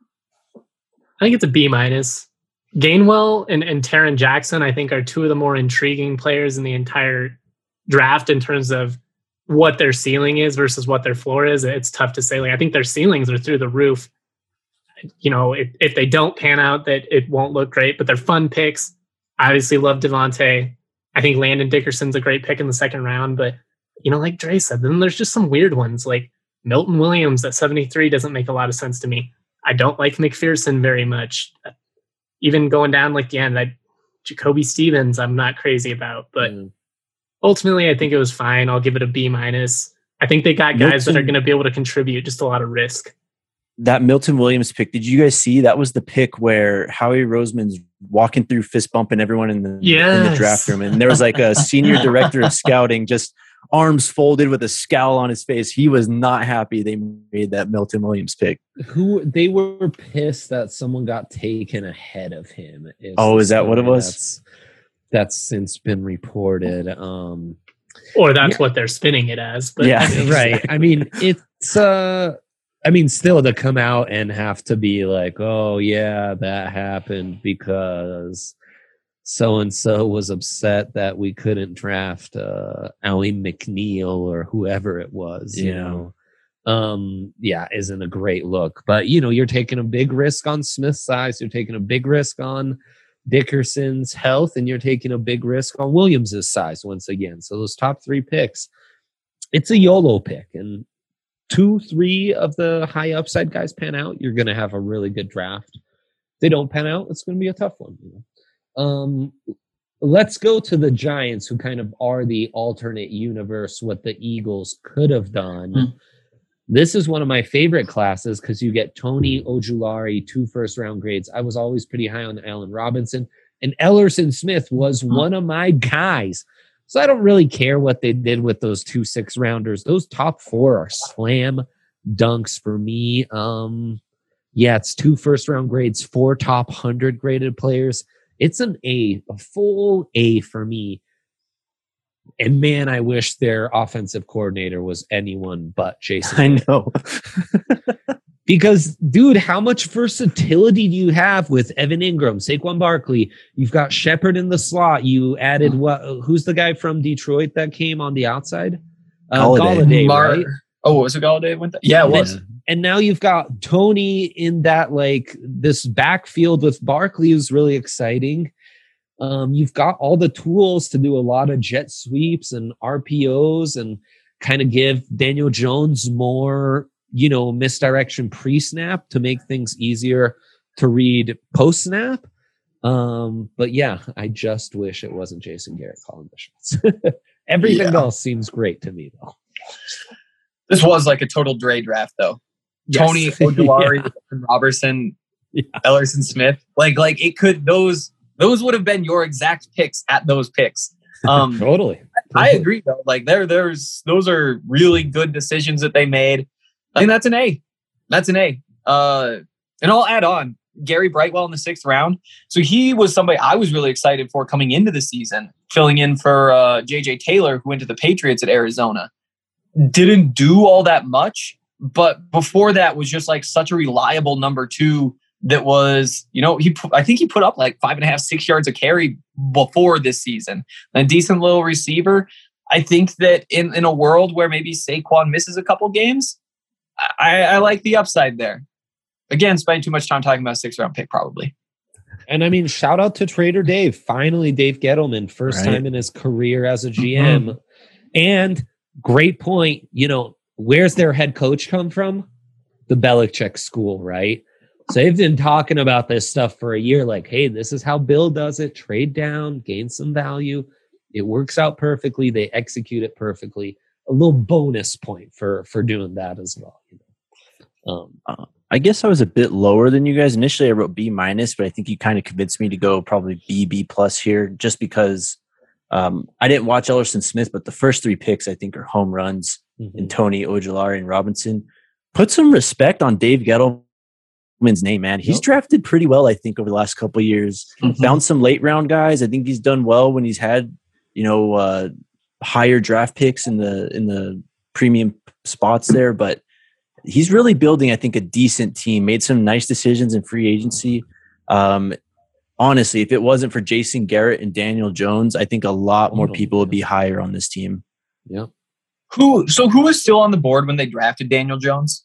I think it's a B-. Gainwell and Taron Jackson, I think, are two of the more intriguing players in the entire draft in terms of what their ceiling is versus what their floor is. It's tough to say. Like, I think their ceilings are through the roof. You know, if they don't pan out, that it won't look great, but they're fun picks. I obviously love Devontae. I think Landon Dickerson's a great pick in the second round, but, you know, like Dre said, then there's just some weird ones. Like Milton Williams at 73 doesn't make a lot of sense to me. I don't like McPherson very much. Even going down like the end, Jacoby Stevens, I'm not crazy about, but ultimately I think it was fine. I'll give it a B-. I think they got guys that are going to be able to contribute, just a lot of risk. That Milton Williams pick, did you guys see? That was the pick where Howie Roseman's walking through fist bumping everyone in the draft room. And there was like a senior director of scouting, just arms folded with a scowl on his face. He was not happy they made that Milton Williams pick. They were pissed that someone got taken ahead of him. Is that what it was? That's since been reported. Or that's what they're spinning it as. But yeah, right. I mean, it's still to come out and have to be like, oh yeah, that happened because so-and-so was upset that we couldn't draft Allie McNeil or whoever it was, you know. Isn't a great look. But, you know, you're taking a big risk on Smith's size. You're taking a big risk on Dickerson's health, and you're taking a big risk on Williams's size once again. So those top three picks, it's a YOLO pick. And 2-3 of the high upside guys pan out, you're going to have a really good draft. If they don't pan out, it's going to be a tough one, you know. Let's go to the Giants, who kind of are the alternate universe, what the Eagles could have done. This is one of my favorite classes because you get Tony Ojulari, 2 first-round grades. I was always pretty high on Allen Robinson, and Ellerson Smith was one of my guys. So I don't really care what they did with those 2 6-rounders. Those top 4 are slam dunks for me. It's 2 first-round grades, 4 top 100 graded players. It's an A, a full A for me. And man, I wish their offensive coordinator was anyone but Jason. I know. Because, dude, how much versatility do you have with Evan Ingram, Saquon Barkley? You've got Shepard in the slot. You added who's the guy from Detroit that came on the outside? Galladay, right? Oh, was it Galladay? Yeah, it was. And now you've got Tony in that, like, this backfield with Barkley is really exciting. You've got all the tools to do a lot of jet sweeps and RPOs and kind of give Daniel Jones more, you know, misdirection pre-snap to make things easier to read post-snap. But yeah, I just wish it wasn't Jason Garrett calling the shots. Everything else seems great to me, though. This was like a total Dre draft, though. Yes. Tony Ojulari, Robertson, Ellerson Smith. Like it could, those would have been your exact picks at those picks. Totally. I agree though. Like those are really good decisions that they made. I think that's an A. That's an A. And I'll add on Gary Brightwell in the 6th round. So he was somebody I was really excited for coming into the season, filling in for JJ Taylor, who went to the Patriots at Arizona. Didn't do all that much, but before that was just like such a reliable number 2 that was, you know, I think he put up like 5.5, 6 yards a carry before this season. A decent little receiver. I think that in a world where maybe Saquon misses a couple games, I like the upside there. Again, spending too much time talking about a 6th-round pick probably. And I mean, shout out to Trader Dave. Finally, Dave Gettleman, first time in his career as a GM. And great point. You know, where's their head coach come from? The Belichick school, right? So they've been talking about this stuff for a year, like, hey, this is how Bill does it. Trade down, gain some value. It works out perfectly. They execute it perfectly. A little bonus point for doing that as well. I guess I was a bit lower than you guys. Initially, I wrote B-, but I think you kind of convinced me to go probably B+ here, just because I didn't watch Ellerson Smith, but the first 3 picks I think are home runs in Tony, Ojulari, and Robinson. Put some respect on Dave Gettleman's name, man. He's drafted pretty well, I think, over the last couple of years. Found some late round guys. I think he's done well when he's had, higher draft picks in the premium spots there. But he's really building, I think, a decent team. Made some nice decisions in free agency. Honestly, if it wasn't for Jason Garrett and Daniel Jones, I think a lot more people would be higher on this team. Yeah. Who was still on the board when they drafted Daniel Jones?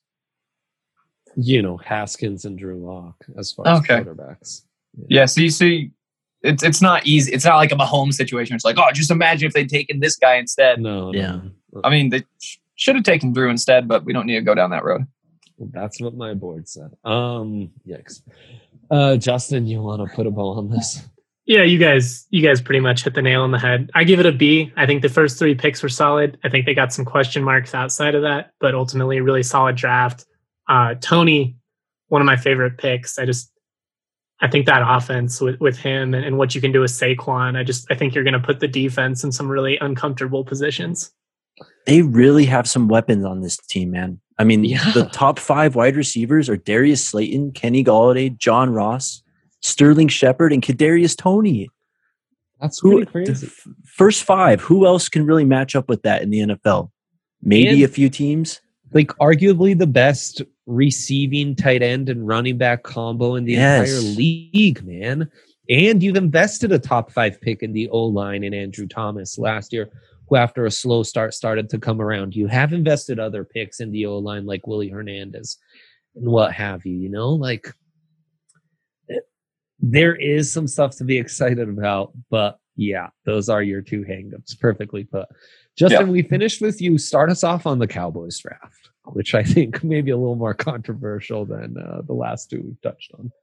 Haskins and Drew Lock as far as quarterbacks. Yeah, see, it's not easy. It's not like a Mahomes situation. It's like, oh, just imagine if they'd taken this guy instead. No. I mean, they should have taken Drew instead, but we don't need to go down that road. Well, that's what my board said. Yikes. Justin, you want to put a bow on this? Yeah, you guys pretty much hit the nail on the head. I give it a B. I think the first 3 picks were solid. I think they got some question marks outside of that, but ultimately a really solid draft. Tony, one of my favorite picks. I think that offense with him and what you can do with Saquon, I think you're going to put the defense in some really uncomfortable positions. They really have some weapons on this team, man. I mean, the top 5 wide receivers are Darius Slayton, Kenny Golladay, John Ross, Sterling Shepard, and Kadarius Toney. That's pretty crazy. First 5. Who else can really match up with that in the NFL? Maybe a few teams. Like arguably the best receiving tight end and running back combo in the entire league, man. And you've invested a top 5 pick in the O-line in Andrew Thomas last year, who after a slow start started to come around. You have invested other picks in the O-line like Willie Hernandez and what have you, like there is some stuff to be excited about, but yeah, those are your 2 hangups. Perfectly put. Justin, we finished with you. Start us off on the Cowboys draft, which I think may be a little more controversial than the last 2 we've touched on.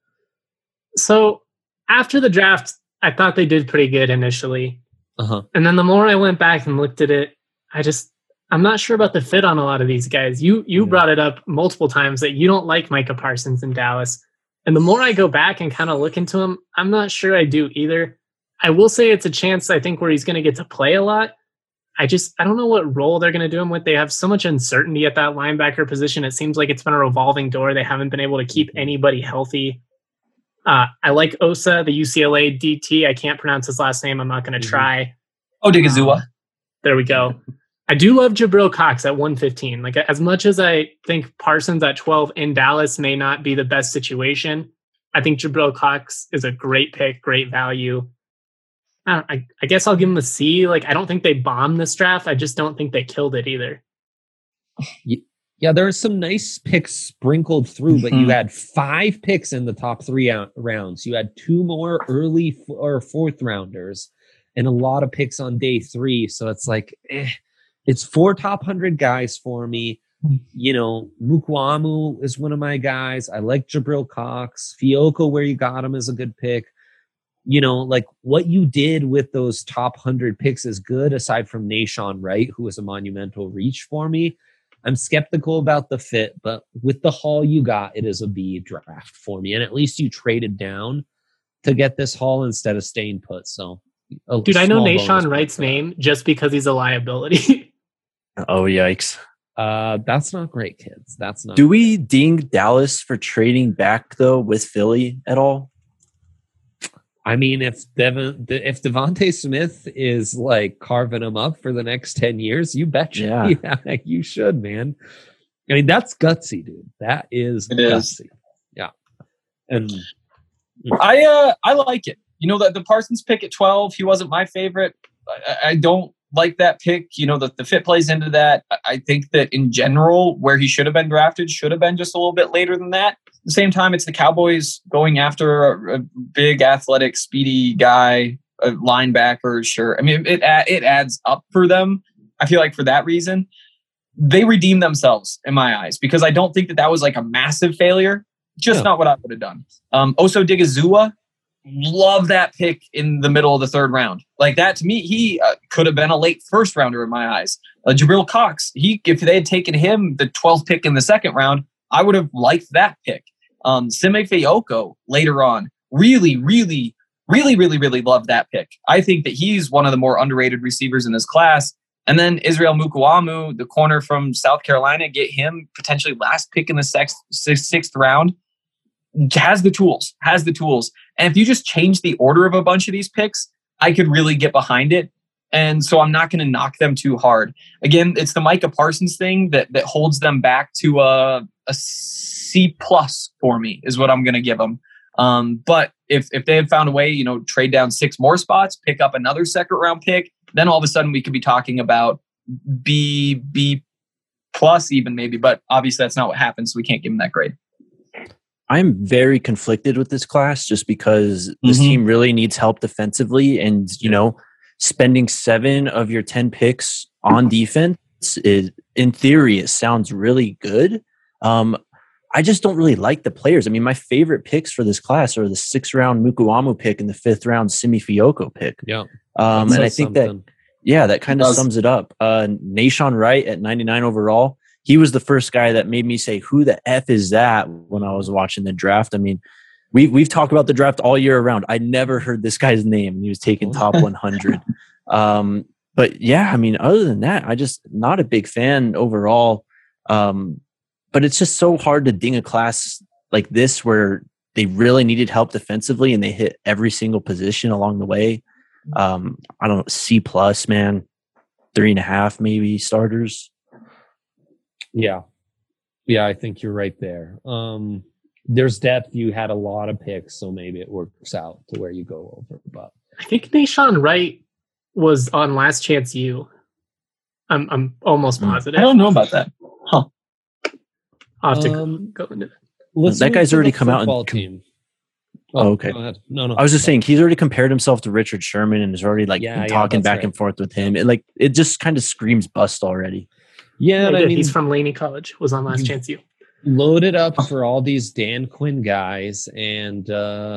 So after the draft, I thought they did pretty good initially. And then the more I went back and looked at it, I'm not sure about the fit on a lot of these guys. You brought it up multiple times that you don't like Micah Parsons in Dallas. And the more I go back and kind of look into him, I'm not sure I do either. I will say it's a chance, I think, where he's going to get to play a lot. I don't know what role they're going to do him with. They have so much uncertainty at that linebacker position. It seems like it's been a revolving door. They haven't been able to keep anybody healthy. I like Osa, the UCLA DT. I can't pronounce his last name. I'm not going to try. Odigizua. There we go. I do love Jabril Cox at 115. Like, as much as I think Parsons at 12 in Dallas may not be the best situation, I think Jabril Cox is a great pick, great value. I guess I'll give him a C. Like, I don't think they bombed this draft. I just don't think they killed it either. Yeah, there are some nice picks sprinkled through, but you had 5 picks in the top 3 rounds. You had 2 more early or 4th rounders and a lot of picks on day 3. So it's like, it's 4 top 100 guys for me. Mukwamu is one of my guys. I like Jabril Cox. Fioko, where you got him, is a good pick. Like what you did with those top 100 picks is good, aside from Nahshon Wright, who was a monumental reach for me. I'm skeptical about the fit, but with the haul you got, it is a B draft for me. And at least you traded down to get this haul instead of staying put. So, dude, I know Nahshon Wright's name just because he's a liability. Oh, yikes. That's not great, kids. That's not. Do we ding Dallas for trading back, though, with Philly at all? I mean, if Devontae Smith is like carving them up for the next 10 years, you betcha. Yeah, you should, man. I mean, that's gutsy, dude. That is gutsy. Yeah. And I like it. The Parsons pick at 12, he wasn't my favorite. I don't like that pick. The fit plays into that. I think that in general, where he should have been drafted should have been just a little bit later than that. At the same time, it's the Cowboys going after a big, athletic, speedy guy, a linebacker. Sure. I mean, it adds up for them. I feel like for that reason. they redeemed themselves in my eyes because I don't think that was like a massive failure. Just not what I would have done. Oso Digizua, love that pick in the middle of the third round. Like that to me, he could have been a late first rounder in my eyes. Jabril Cox, if they had taken him the 12th pick in the second round, I would have liked that pick. Sime Fayoko later on, really loved that pick. I think that he's one of the more underrated receivers in this class. And then Israel Mukuamu, the corner from South Carolina, get him potentially last pick in the sixth round. Has the tools. And if you just change the order of a bunch of these picks, I could really get behind it. And so I'm not going to knock them too hard. Again, it's the Micah Parsons thing that holds them back to a C+ for me is what I'm going to give them. But if they had found a way, trade down 6 more spots, pick up another second round pick, then all of a sudden we could be talking about B+ even maybe. But obviously that's not what happens. So we can't give them that grade. I'm very conflicted with this class just because this team really needs help defensively. And, spending 7 of your 10 picks on defense is, in theory, it sounds really good. I just don't really like the players. I mean, my favorite picks for this class are the 6th round Mukuamu pick and the 5th round Simi Fayoko pick. Yeah. And I think that kind of sums it up. Nahshon Wright at 99 overall. He was the first guy that made me say, who the F is that when I was watching the draft? I mean, we've talked about the draft all year around. I never heard this guy's name. He was taken top 100. But yeah, I mean, other than that, I just not a big fan overall. But it's just so hard to ding a class like this where they really needed help defensively and they hit every single position along the way. I don't know, C+, man, 3.5 maybe starters. Yeah, I think you're right there. There's depth. You had a lot of picks, so maybe it works out to where you go over. But I think Nahshon Wright was on Last Chance U. I'm almost positive. I don't know about that. Huh. I'll have to go into it. That guy's already come out and team. Oh, okay. Go ahead. No. I was just saying he's already compared himself to Richard Sherman and is already been talking back and forth with him. It just kind of screams bust already. Yeah, I mean, he's from Laney College. Was on Last Chance U. Loaded up for all these Dan Quinn guys, and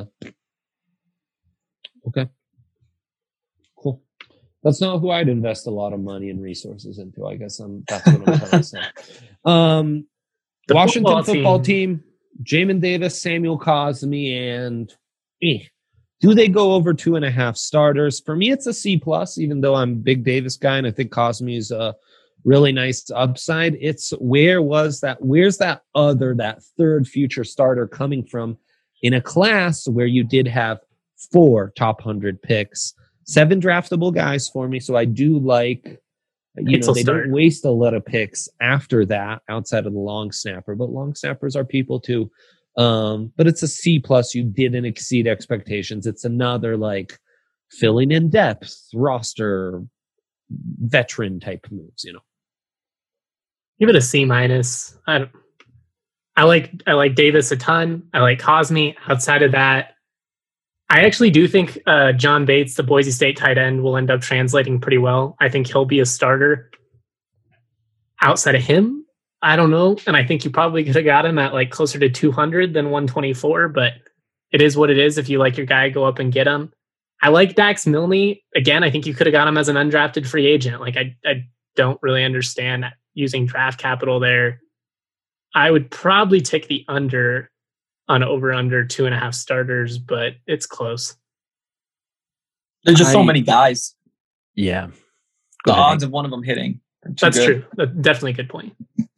okay, cool. That's not who I'd invest a lot of money and resources into. I guess that's what I'm trying to say. The Washington football team, Jamin Davis, Samuel Cosmi, and do they go over 2.5 starters? For me, it's a C+, even though I'm a big Davis guy, and I think Cosmi is a really nice upside. It's where's that third future starter coming from in a class where you did have 4 top 100 picks, 7 draftable guys for me. So I do like, they don't waste a lot of picks after that outside of the long snapper, but long snappers are people too. But it's a C+. You didn't exceed expectations. It's another filling in depth roster veteran type moves, Give it a C-. I like Davis a ton. I like Cosmi. Outside of that, I actually do think John Bates, the Boise State tight end, will end up translating pretty well. I think he'll be a starter. Outside of him, I don't know. And I think you probably could have got him at closer to 200 than 124, but it is what it is. If you like your guy, go up and get him. I like Dax Milne. Again, I think you could have got him as an undrafted free agent. I don't really understand using draft capital there. I would probably take the under on over 2.5 starters, but it's close. There's just so many guys. Yeah. The odds of one of them hitting. That's true. That's definitely a good point.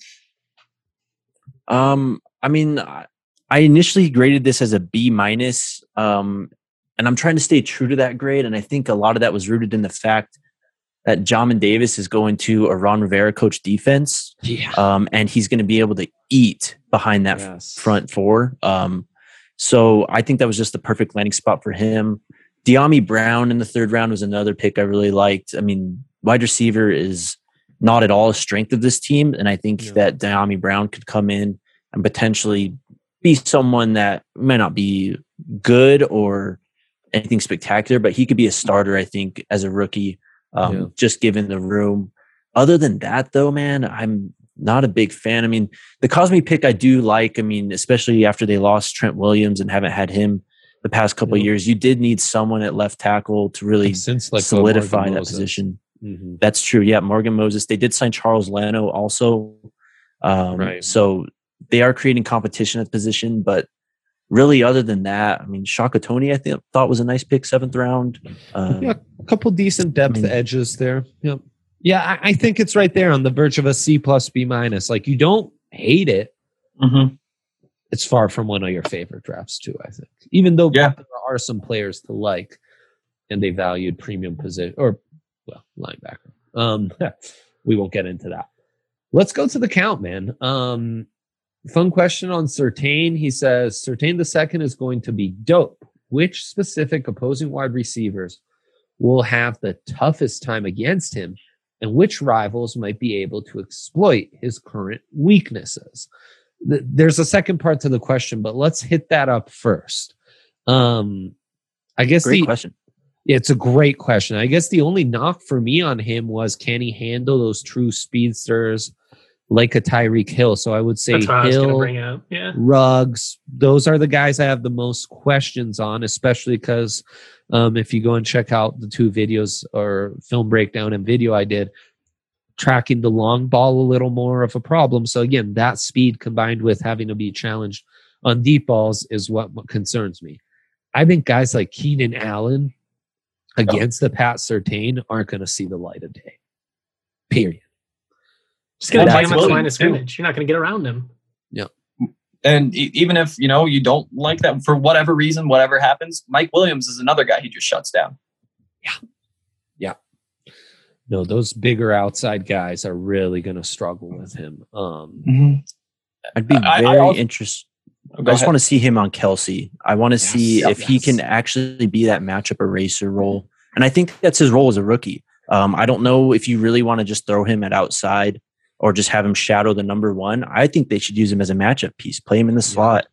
I mean, I initially graded this as a B-, and I'm trying to stay true to that grade. And I think a lot of that was rooted in the fact that Jamin Davis is going to a Ron Rivera coach defense. Yeah. And he's going to be able to eat behind that front 4. So I think that was just the perfect landing spot for him. De'Ami Brown in the 3rd round was another pick I really liked. I mean, wide receiver is not at all a strength of this team. And I think that De'Ami Brown could come in and potentially be someone that might not be good or anything spectacular, but he could be a starter, I think, as a rookie. Just given the room. Other than that, though, man, I'm not a big fan. I mean, the Cosme pick I do like. I mean, especially after they lost Trent Williams and haven't had him the past couple of years, you did need someone at left tackle to really solidify that position. Mm-hmm. That's true. Yeah, Morgan Moses. They did sign Charles Leno also. Right. So they are creating competition at the position, but really, other than that, I mean, Shaka Toney, I thought was a nice pick, 7th round. Yeah, a couple decent depth edges there. Yep. Yeah, I think it's right there on the verge of a C+, B-. Like, you don't hate it. Mm-hmm. It's far from one of your favorite drafts, too, I think. Even though there are some players to like, and they valued premium position, or, well, linebacker. We won't get into that. Let's go to the count, man. Fun question on Surtain. He says, Surtain II is going to be dope. Which specific opposing wide receivers will have the toughest time against him, and which rivals might be able to exploit his current weaknesses? There's a second part to the question, but let's hit that up first. I guess great question. It's a great question. I guess the only knock for me on him was, can he handle those true speedsters like a Tyreek Hill? So I would say Hill, Ruggs, those are the guys I have the most questions on, especially because if you go and check out the 2 videos or film breakdown and video I did, tracking the long ball a little more of a problem. So again, that speed combined with having to be challenged on deep balls is what concerns me. I think guys like Keenan Allen against the Pat Surtain aren't going to see the light of day. Period. Just going to take him at the line of scrimmage. You're not going to get around him. Yeah. And even if, you don't like that for whatever reason, whatever happens, Mike Williams is another guy he just shuts down. Yeah. Yeah. No, those bigger outside guys are really going to struggle with him. I'd be very interested. I just want to see him on Kelsey. I want to see if he can actually be that matchup eraser role. And I think that's his role as a rookie. I don't know if you really want to just throw him at outside or just have him shadow the number 1. I think they should use him as a matchup piece, play him in the slot,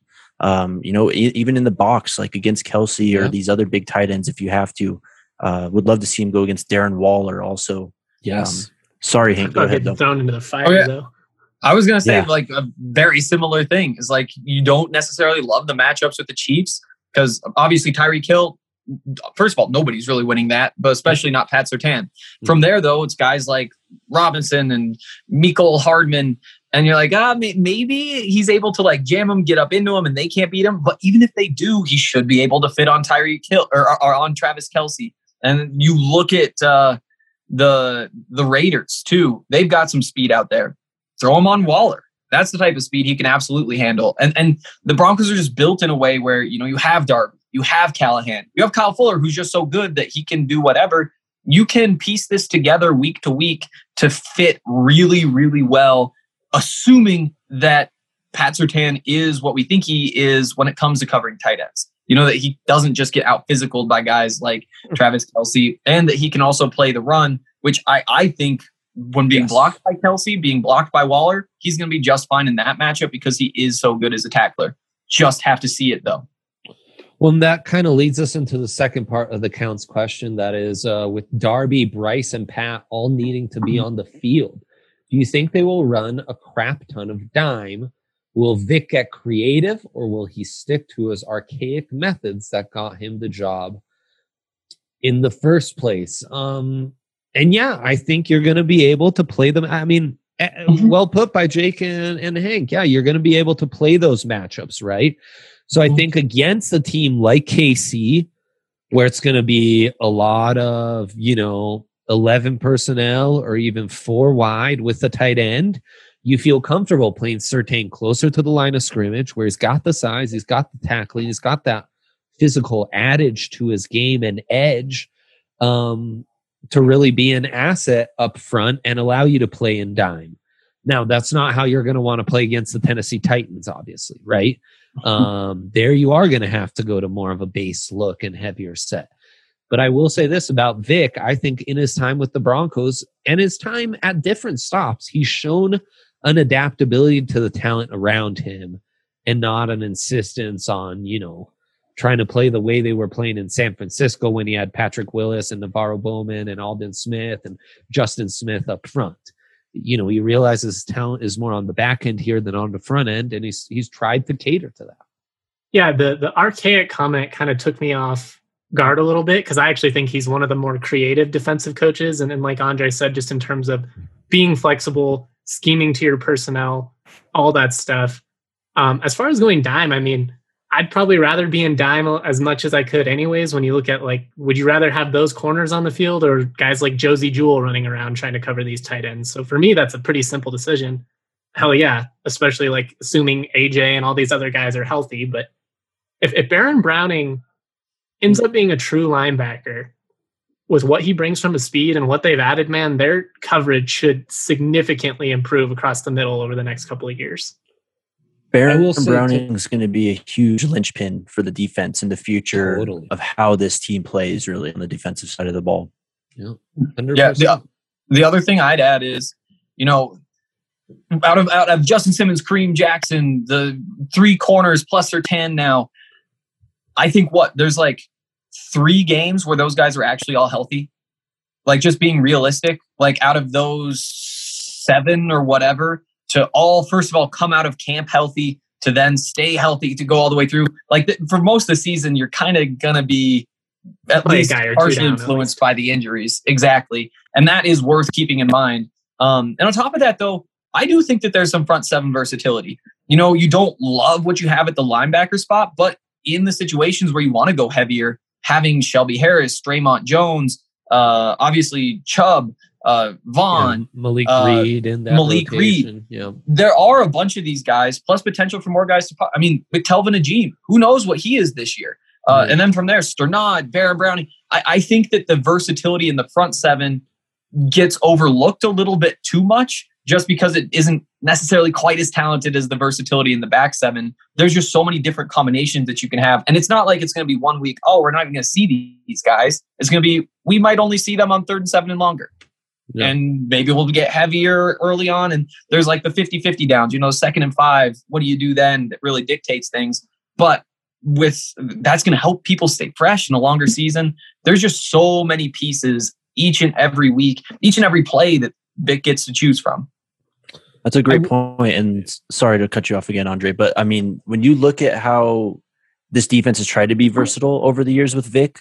even in the box, like against Kelsey or these other big tight ends if you have to. Would love to see him go against Darren Waller also. Yes. Sorry, Hank, go ahead. Thrown into the fire, though. I was going to say like a very similar thing is like you don't necessarily love the matchups with the Chiefs because obviously Tyreek Hill, first of all, nobody's really winning that, but especially not Pat Surtain. From there, though, it's guys like Robinson and Mecole Hardman. And you're like, maybe he's able to like jam him, get up into him, and they can't beat him. But even if they do, he should be able to fit on Tyreek Hill or on Travis Kelce. And you look at the Raiders too; they've got some speed out there. Throw him on Waller. That's the type of speed he can absolutely handle. And the Broncos are just built in a way where you have Darby, you have Callahan, you have Kyle Fuller, who's just so good that he can do whatever. You can piece this together week to week to fit really, really well, assuming that Pat Surtain is what we think he is when it comes to covering tight ends. That he doesn't just get out physicaled by guys like Travis Kelce, and that he can also play the run, which I think when being blocked by Kelce, being blocked by Waller, he's going to be just fine in that matchup because he is so good as a tackler. Just have to see it, though. Well, that kind of leads us into the second part of the counts question. That is with Darby, Bryce, and Pat all needing to be on the field. Do you think they will run a crap ton of dime? Will Vic get creative, or will he stick to his archaic methods that got him the job in the first place? And yeah, I think you're going to be able to play them. I mean, well put by Jake and Hank. Yeah, you're going to be able to play those matchups, right? So I think against a team like KC, where it's going to be a lot of, 11 personnel or even 4 wide with the tight end, you feel comfortable playing Surtain closer to the line of scrimmage where he's got the size, he's got the tackling, he's got that physical adage to his game and edge to really be an asset up front and allow you to play in dime. Now, that's not how you're going to want to play against the Tennessee Titans, obviously, right? There you are going to have to go to more of a base look and heavier set. But I will say this about Vic. I think in his time with the Broncos and his time at different stops, he's shown an adaptability to the talent around him and not an insistence on, trying to play the way they were playing in San Francisco when he had Patrick Willis and Navarro Bowman and Aldon Smith and Justin Smith up front. You know, he realizes his talent is more on the back end here than on the front end, and he's tried to cater to that. Yeah, the archaic comment kind of took me off guard a little bit because I actually think he's one of the more creative defensive coaches. And like Andre said, just in terms of being flexible, scheming to your personnel, all that stuff. As far as going dime, I mean, I'd probably rather be in dime as much as I could anyways. When you look at, like, would you rather have those corners on the field or guys like Josie Jewell running around trying to cover these tight ends? So for me, that's a pretty simple decision. Hell yeah, especially like assuming AJ and all these other guys are healthy. But if Baron Browning ends up being a true linebacker with what he brings from his speed and what they've added, man, their coverage should significantly improve across the middle over the next couple of years. Baron Browning is going to be a huge linchpin for the defense in the future of how this team plays, really, on the defensive side of the ball. Yeah, 100%. Yeah. The other thing I'd add is, you know, out of Justin Simmons, Kareem Jackson, the three corners plus their 10 now, I think there's like 3 games where those guys are actually all healthy. Like, just being realistic, like out of those 7 or whatever, to all, first of all, come out of camp healthy, to then stay healthy, to go all the way through. Like, for most of the season, you're kind of going to be at least partially influenced by the injuries. Exactly. And that is worth keeping in mind. And on top of that, though, I do think that there's some front 7 versatility. You know, you don't love what you have at the linebacker spot, but in the situations where you want to go heavier, having Shelby Harris, Draymond Jones, obviously Chubb, Vaughn, Malik Reed in that Malik rotation. Reed. Yeah. There are a bunch of these guys, plus potential for more guys to pop. I mean, with Telvin Ajim, who knows what he is this year? And then from there, Sternad, Baron Browning. I think that the versatility in the front 7 gets overlooked a little bit too much just because it isn't necessarily quite as talented as the versatility in the back 7. There's just so many different combinations that you can have. And it's not like it's going to be 1 week, oh, we're not even going to see these guys. It's going to be, we might only see them on 3rd and 7 and longer. Yeah. And maybe we'll get heavier early on. And there's like the 50-50 downs, you know, 2nd and 5. What do you do then that really dictates things? But that's going to help people stay fresh in a longer season. There's just so many pieces each and every week, each and every play that Vic gets to choose from. That's a great point. And sorry to cut you off again, Andre, but I mean, when you look at how this defense has tried to be versatile over the years with Vic,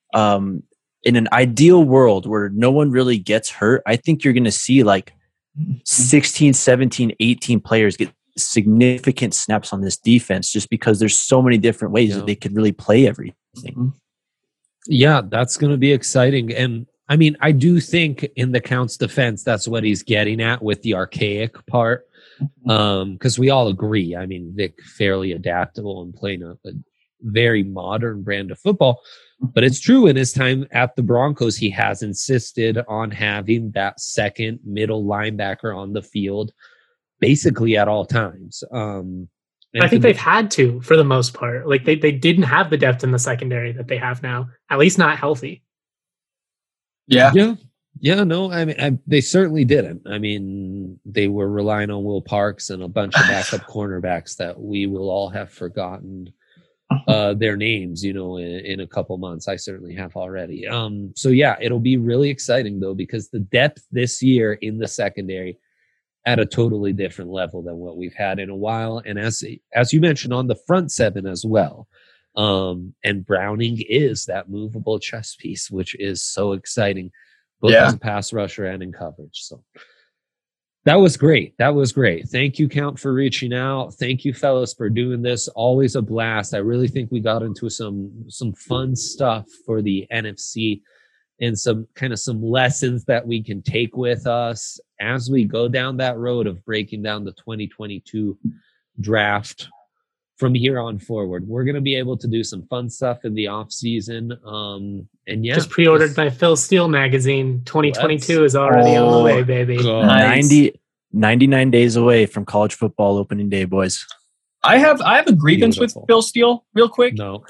in an ideal world where no one really gets hurt, I think you're going to see like 16, 17, 18 players get significant snaps on this defense just because there's so many different ways that they could really play everything. Yeah, that's going to be exciting. And I mean, I do think in the Count's defense, that's what he's getting at with the archaic part. Because we all agree. I mean, Vic fairly adaptable and playing a very modern brand of football. But it's true, in his time at the Broncos, he has insisted on having that second middle linebacker on the field basically at all times. I think they've had to, for the most part. Like, they didn't have the depth in the secondary that they have now, at least not healthy. Yeah, no, I mean, they certainly didn't. I mean, they were relying on Will Parks and a bunch of backup cornerbacks that we will all have forgotten their names, you know, in a couple months. I certainly have already. So yeah, it'll be really exciting though, because the depth this year in the secondary at a totally different level than what we've had in a while. And as you mentioned, on the front 7 as well. And Browning is that movable chess piece, which is so exciting, both as a pass rusher and in coverage. So that was great. Thank you, Count, for reaching out. Thank you, fellas, for doing this. Always a blast. I really think we got into some fun stuff for the NFC and some lessons that we can take with us as we go down that road of breaking down the 2022 draft. From here on forward, we're going to be able to do some fun stuff in the off season. And yeah, just pre-ordered my Phil Steele magazine. 2022 is already on the way, baby. Nice. 99 days away from college football opening day, boys. I have a grievance with Phil Steele real quick. No.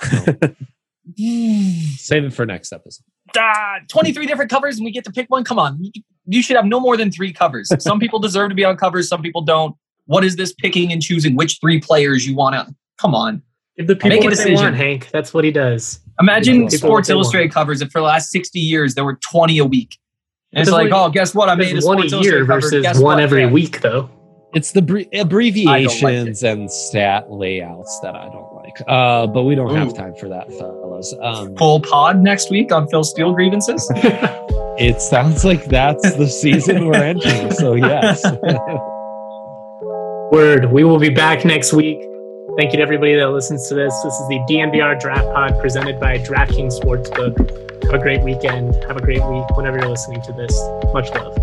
Save it for next episode. 23 different covers and we get to pick one. Come on. You should have no more than 3 covers. Some people deserve to be on covers. Some people don't. What is this picking and choosing which 3 players you want to? Come on. Give the people Make a what they decision. want, Hank. That's what he does. Imagine People Sports what they Illustrated covers if for the last 60 years there were 20 a week. And it's That's like, like- oh, guess what? I made a one a Sports year Illustrated cover. versus Guess one what? every Yeah. week, though. It's the abbreviations and stat layouts that I don't like. But we don't have Ooh. time for that, fellas. Full pod next week on Phil Steele grievances. It sounds like that's the season we're entering. So yes. Word. We will be back next week. Thank you to everybody that listens to this. This is the DNVR Draft Pod presented by DraftKings Sportsbook. Have a great weekend. Have a great week whenever you're listening to this. Much love.